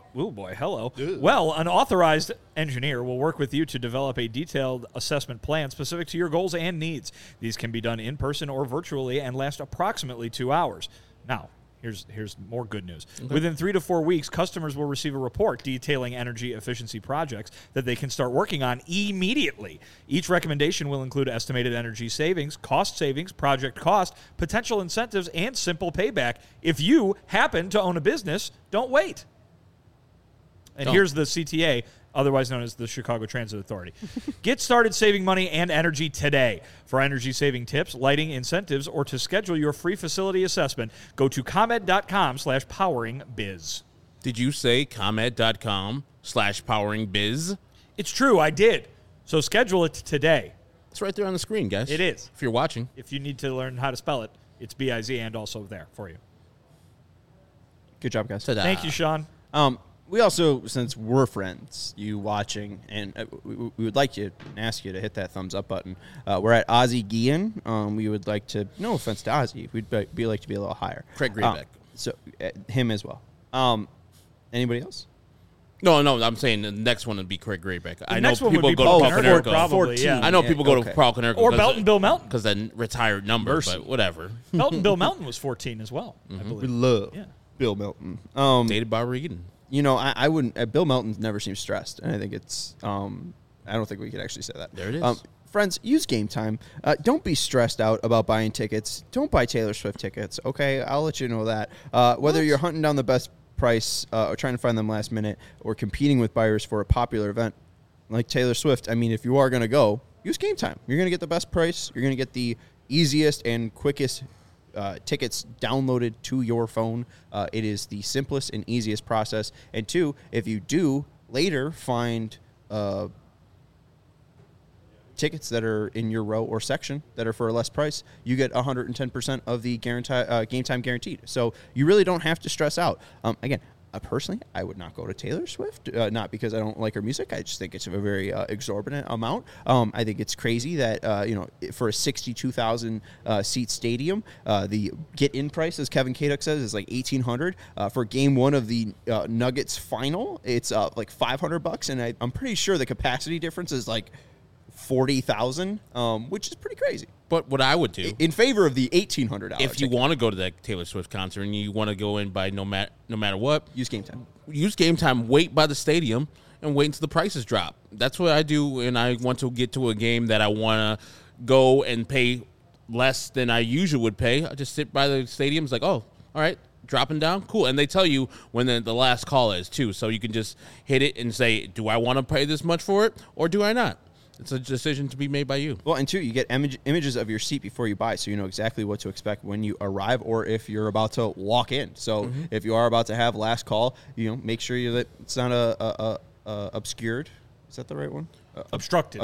an authorized engineer will work with you to develop a detailed assessment plan specific to your goals and needs. These can be done in person or virtually and last approximately 2 hours. Now, here's more good news. Okay. Within 3 to 4 weeks, customers will receive a report detailing energy efficiency projects that they can start working on immediately. Each recommendation will include estimated energy savings, project cost, potential incentives, and simple payback. If you happen to own a business, don't wait. And here's the CTA, otherwise known as the Chicago Transit Authority. Get started saving money and energy today. For energy-saving tips, lighting incentives, or to schedule your free facility assessment, go to ComEd.com/poweringbiz. Did you say ComEd.com/poweringbiz? It's true, I did. So schedule it today. It's right there on the screen, guys. It is. If you're watching. If you need to learn how to spell it, it's B-I-Z and also there for you. Good job, guys. Ta-da. Thank you, Sean. We also, since we're friends, you watching, and we would like you and ask you to hit that thumbs up button. We're at Ozzie Guillen. We would like to, no offense to Ozzie, we'd be like to be a little higher. Craig Greenbeck. So him as well. Anybody else? No, I'm saying the next one would be Craig Greenbeck. I know next one people would be go to Paul Paul Konerko, Konerko. probably, yeah. I know people go okay. to Paul Konerko. Or Belton Bill Melton. Because then retired number, Mercy. but whatever. Belton Bill Melton was 14 as well, I believe. We love Yeah. Bill Melton. Dated by Regan. You know, I wouldn't. Bill Melton never seems stressed, and I think it's. I don't think we could actually say that. There it is. Friends, use Game Time. Don't be stressed out about buying tickets. Don't buy Taylor Swift tickets. Okay, I'll let you know that. Whether you're hunting down the best price or trying to find them last minute, or competing with buyers for a popular event like Taylor Swift. I mean, if you are going to go, use Game Time. You're going to get the best price. You're going to get the easiest and quickest tickets downloaded to your phone. It is the simplest and easiest process. And two, if you do later find tickets that are in your row or section that are for a less price, you get 110% of the Game Time guaranteed. So you really don't have to stress out. Again, personally, I would not go to Taylor Swift, not because I don't like her music. I just think it's a very exorbitant amount. I think it's crazy that, for a 62,000 seat stadium, the get-in price, as Kevin Kaduk says, is like $1,800. For game one of the Nuggets final, it's like $500, and I'm pretty sure the capacity difference is like 40,000, which is pretty crazy. But what I would do In favor of the $1,800 if you want to go to that Taylor Swift concert and you want to go in by no matter what, use Game Time. Use Game Time, wait by the stadium, and wait until the prices drop. That's what I do when I want to get to a game that I want to go and pay less than I usually would pay. I just sit by the stadium. It's like, oh, all right, dropping down, cool. And they tell you when the last call is, too. So you can just hit it and say, do I want to pay this much for it, or do I not? It's a decision to be made by you. Well, and two, you get images of your seat before you buy, so you know exactly what to expect when you arrive or if you're about to walk in. So if you are about to have last call, make sure that it's not obscured. Is that the right one? Obstructed.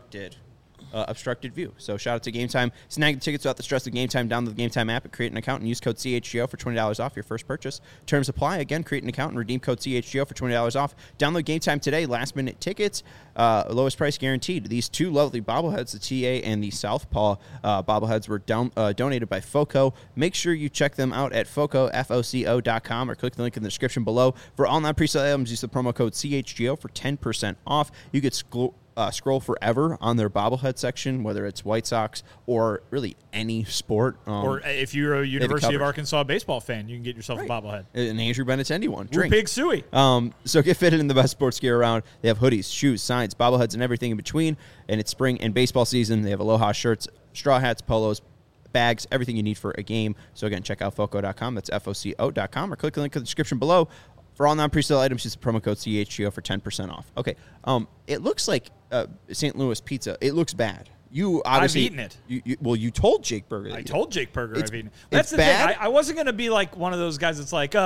Obstructed view. So shout out to Game Time. Snag the tickets without the stress of Game Time. Download the Game Time app and create an account and use code CHGO for $20 off your first purchase. Terms apply. Again, create an account and redeem code CHGO for $20 off. Download Game Time today. Last minute tickets. Lowest price guaranteed. These two lovely bobbleheads, the TA and the Southpaw bobbleheads, were donated by FOCO. Make sure you check them out at FOCO.com or click the link in the description below. For all non-presale items, use the promo code CHGO for 10% off. You get scroll forever on their bobblehead section, whether it's White Sox or really any sport. Or if you're a University of Arkansas baseball fan, you can get yourself a bobblehead. An Andrew Benintendi one. Drink. Pig Suey. So get fitted in the best sports gear around. They have hoodies, shoes, signs, bobbleheads, and everything in between. And it's spring and baseball season. They have Aloha shirts, straw hats, polos, bags, everything you need for a game. So again, check out FOCO.com. That's FOCO.com, or click the link in the description below. For all non-presale items, use the promo code CHGO for 10% off. Okay. It looks like St. Louis pizza. It looks bad. You obviously... I've eaten it. You told Jake Berger. I told Jake Berger I've eaten it. It's That's the bad? thing. I wasn't going to be like one of those guys that's like,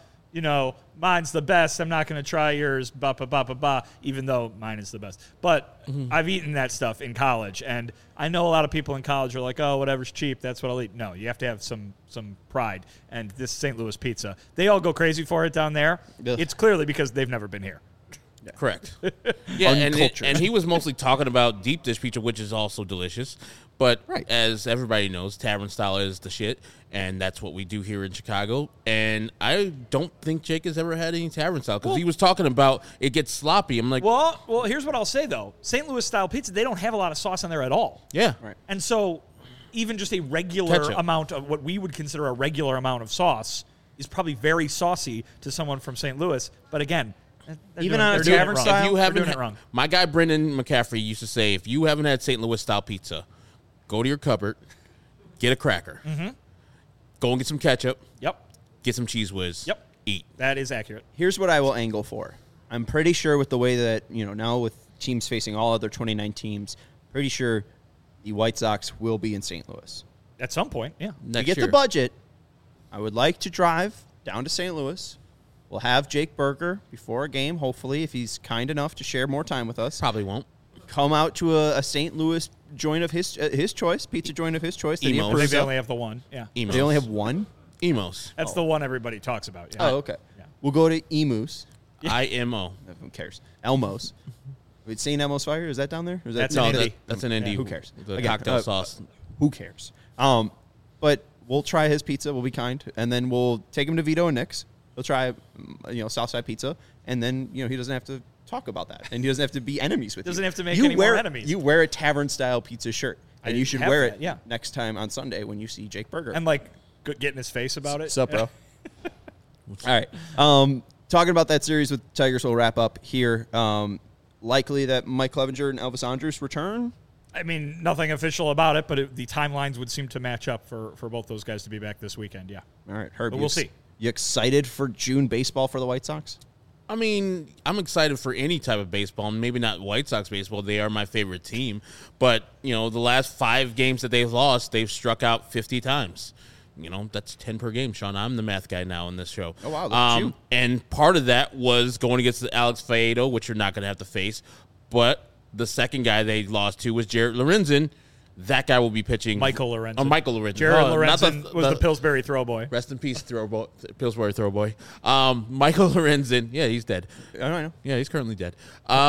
mine's the best. I'm not going to try yours, even though mine is the best. But I've eaten that stuff in college, and I know a lot of people in college are like, oh, whatever's cheap, that's what I'll eat. No, you have to have some pride. And this St. Louis pizza, they all go crazy for it down there. Ugh. It's clearly because they've never been here. Correct. Yeah, Uncultured. and he was mostly talking about deep dish pizza, which is also delicious. But Right. as everybody knows, tavern style is the shit, and that's what we do here in Chicago. And I don't think Jake has ever had any tavern style because he was talking about it gets sloppy. I'm like, Well, here's what I'll say though: St. Louis style pizza, they don't have a lot of sauce on there at all. yeah, Right. And so, even just a regular Ketchup. amount of what we would consider a regular amount of sauce is probably very saucy to someone from St. Louis. But again, Even on a they're doing it tavern wrong. style? If you They're haven't, doing it wrong. my guy Brendan McCaffrey used to say, if you haven't had St. Louis style pizza, go to your cupboard, get a cracker, go and get some ketchup, Yep, get some cheese whiz, Yep. eat. that is accurate. Here's what I will angle for. I'm pretty sure with the way that, now with teams facing all other 29 teams, pretty sure the White Sox will be in St. Louis. At some point, yeah. Next To get year. the budget, I would like to drive down to St. Louis. We'll have Jake Berger before a game, hopefully, if he's kind enough to share more time with us. Probably won't. Come out to a St. Louis joint of his choice, pizza joint of his choice. That he Emo. I think approves they of. only have the one. Yeah, Emos. They only have one? Emos. that's the one everybody talks about. Yeah. Oh, okay. Yeah. We'll go to Emus. IMO. Who cares? Elmos. Wait, St. Elmo's Fire? Is that down there? Or is that That's No, an indie. that's an indie. Who cares? The Again, cocktail sauce. Who cares? But we'll try his pizza. We'll be kind, and then we'll take him to Vito and Nick's. He'll try, Southside Pizza, and then he doesn't have to talk about that, and he doesn't have to be enemies with you. Doesn't have to make You any more wear- enemies. You wear a tavern style pizza shirt, and I you should have wear that, it yeah. next time on Sunday when you see Jake Berger. And get in his face about it. What's up, bro? All right. Talking about that series with Tigers, we'll wrap up here. Likely that Mike Clevenger and Elvis Andrus return. I mean, nothing official about it, but the timelines would seem to match up for both those guys to be back this weekend. Yeah. All right, Herb. But we'll see. You excited for June baseball for the White Sox? I mean, I'm excited for any type of baseball. Maybe not White Sox baseball. They are my favorite team. But, the last 5 games that they've lost, they've struck out 50 times. That's 10 per game, Sean. I'm the math guy now in this show. Oh, wow, look at you. And part of that was going against Alex Faedo, which you're not going to have to face. But the second guy they lost to was Jared Lorenzen. That guy will be pitching. Michael Lorenzen. Oh, Michael Lorenzen. Jared not Lorenzen was the Pillsbury throw boy. Rest in peace, Pillsbury throw boy. Michael Lorenzen. Yeah, he's dead. I don't know. Yeah, he's currently dead.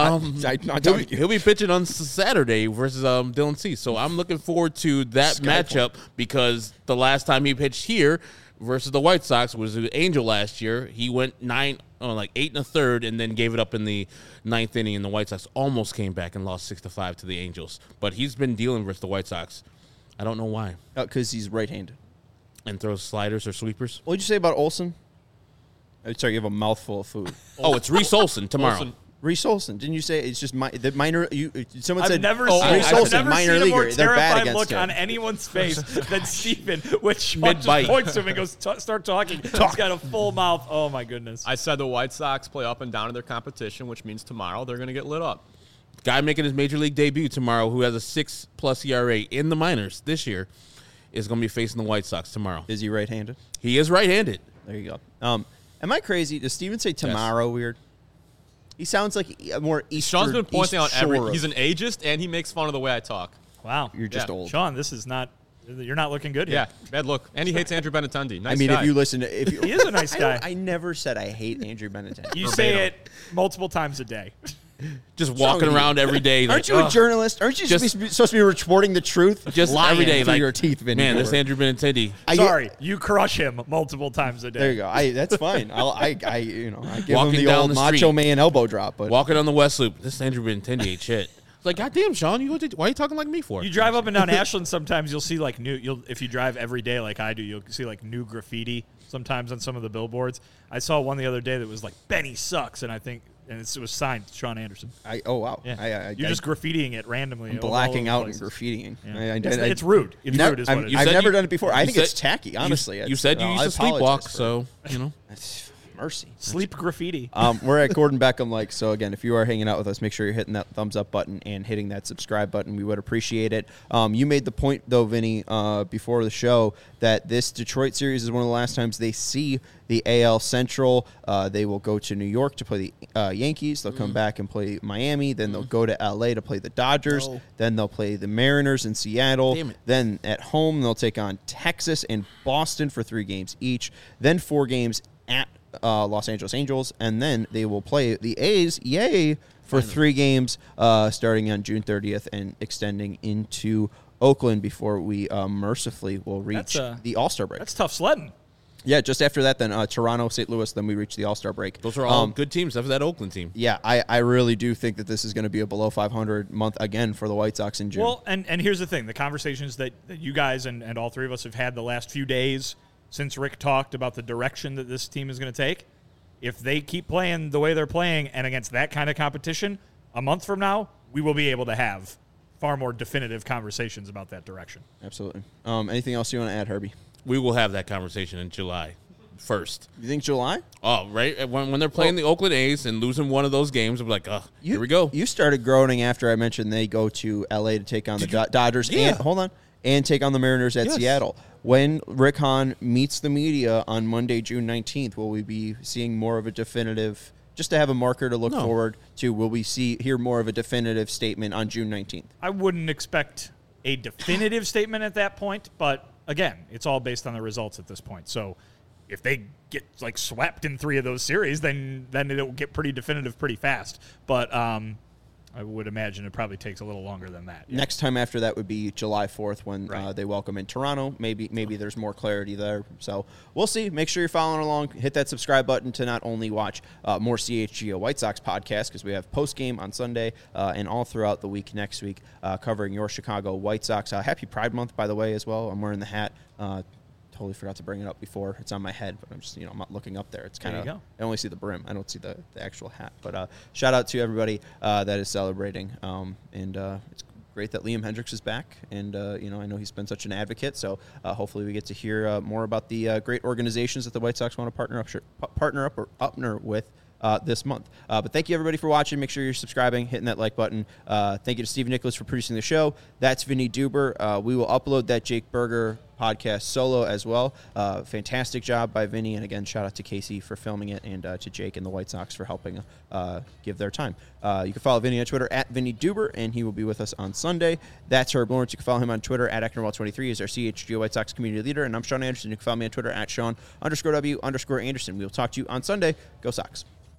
He'll be pitching on Saturday versus Dylan Cease. So I'm looking forward to that matchup because the last time he pitched here versus the White Sox was the Angel last year. He went 8 1/3, and then gave it up in the 9th inning, and the White Sox almost came back and lost 6-5 to the Angels. But he's been dealing versus the White Sox. I don't know why. Because he's right-handed. And throws sliders or sweepers. What did you say about Olsen? Sorry, you have a mouthful of food. Oh, it's Reese Olson tomorrow. Olsen. Reese Olsen. Didn't you say it's just the minor? Someone I've said never Reese seen, Olsen, I've never minor seen a more leaguer. They're bad terrified against look him. on anyone's face than Stephen, which Sean Mid-bite. just points to him and goes, start talking. He's got a full mouth. Oh, my goodness. I said the White Sox play up and down in their competition, which means tomorrow they're going to get lit up. Guy making his major league debut tomorrow who has a 6+ ERA in the minors this year is going to be facing the White Sox tomorrow. Is he right-handed? He is right-handed. There you go. Am I crazy? Does Steven say tomorrow weird? He sounds like a more East. Sean's been pointing out Shore he's an ageist, and he makes fun of the way I talk. Wow. You're just Yeah. old. Sean, this is not – you're not looking good here. Yeah, bad look. And he hates Andrew Benintendi. Nice I mean, guy. if you listen to, if you, He is a nice guy. I never said I hate Andrew Benintendi. You say it multiple times a day. Just walking you? around every day. Aren't like, you a journalist? Aren't you Just- supposed to be reporting the truth? just Lying every day, through like your teeth, Vinny. man, this Cooper. Andrew Benintendi. Sorry, you crush him multiple times a day. There you go. That's fine. I give Walking him the down old the Macho street. Man elbow drop. But Walking on the West Loop. This Andrew Benintendi ain't shit. It's like, goddamn, Sean, why are you talking like me for? You drive up and down Ashland sometimes, you'll see if you drive every day like I do, you'll see like new graffiti sometimes on some of the billboards. I saw one the other day that was like Benny sucks, and it was signed Sean Anderson. oh wow, Yeah. You're just graffitiing it randomly. I'm all blacking over out and places. graffitiing. Yeah. It's rude. It's rude is what it is. I've said never you- done it before. I you think said- it's tacky, honestly. You said you used to sleepwalk, so, Mercy. Sleep graffiti. We're at Gordon Beckham Like. So, again, if you are hanging out with us, make sure you're hitting that thumbs up button and hitting that subscribe button. We would appreciate it. You made the point, though, Vinny, before the show, that this Detroit series is one of the last times they see the AL Central. They will go to New York to play the Yankees. They'll come back and play Miami. Then they'll go to L.A. to play the Dodgers. No. Then they'll play the Mariners in Seattle. Damn it. Then at home, they'll take on Texas and Boston for 3 games each. Then 4 games at Los Angeles Angels, and then they will play the A's, yay, for 3 games starting on June 30th and extending into Oakland before we mercifully will reach the All-Star break. That's tough sledding. Yeah, just after that, then Toronto, St. Louis, then we reach the All-Star break. Those are all good teams after that Oakland team. Yeah, I really do think that this is going to be a below 500 month again for the White Sox in June. Well, and here's the thing. The conversations that you guys and all 3 of us have had the last few days since Rick talked about the direction that this team is going to take, if they keep playing the way they're playing and against that kind of competition, a month from now, we will be able to have far more definitive conversations about that direction. Absolutely. Anything else you want to add, Herbie? We will have that conversation in July 1st. You think July? Oh, right. When they're playing the Oakland A's and losing one of those games, I'm like, here we go. You started groaning after I mentioned they go to L.A. to take on the Dodgers and take on the Mariners at Seattle. When Rick Hahn meets the media on Monday, June 19th, will we be seeing more of a definitive, just to have a marker to look forward to, will we hear more of a definitive statement on June 19th? I wouldn't expect a definitive statement at that point, but again, it's all based on the results at this point. So if they get swept in 3 of those series, then it'll get pretty definitive pretty fast. But I would imagine it probably takes a little longer than that. Yeah. Next time after that would be July 4th when they welcome in Toronto. Maybe there's more clarity there. So we'll see. Make sure you're following along. Hit that subscribe button to not only watch more CHGO White Sox podcasts, because we have post-game on Sunday and all throughout the week next week covering your Chicago White Sox. Happy Pride Month, by the way, as well. I'm wearing the hat. Totally forgot to bring it up before. It's on my head, but I'm just, I'm not looking up there. It's kind of, I only see the brim. I don't see the actual hat. But shout out to everybody that is celebrating. And it's great that Liam Hendriks is back. And, I know he's been such an advocate. So hopefully we get to hear more about the great organizations that the White Sox want to partner with this month. But thank you, everybody, for watching. Make sure you're subscribing, hitting that like button. Thank you to Steve Nicholas for producing the show. That's Vinny Duber. We will upload that Jake Berger podcast solo as well. Fantastic job by Vinny. And again, shout out to Casey for filming it and to Jake and the White Sox for helping give their time. You can follow Vinny on Twitter at Vinny Duber, and he will be with us on Sunday. That's Herb Lawrence. You can follow him on Twitter at Ecknerwall23. He's our CHGO White Sox community leader. And I'm Sean Anderson. You can follow me on Twitter at Sean_W_Anderson. We will talk to you on Sunday. Go Sox.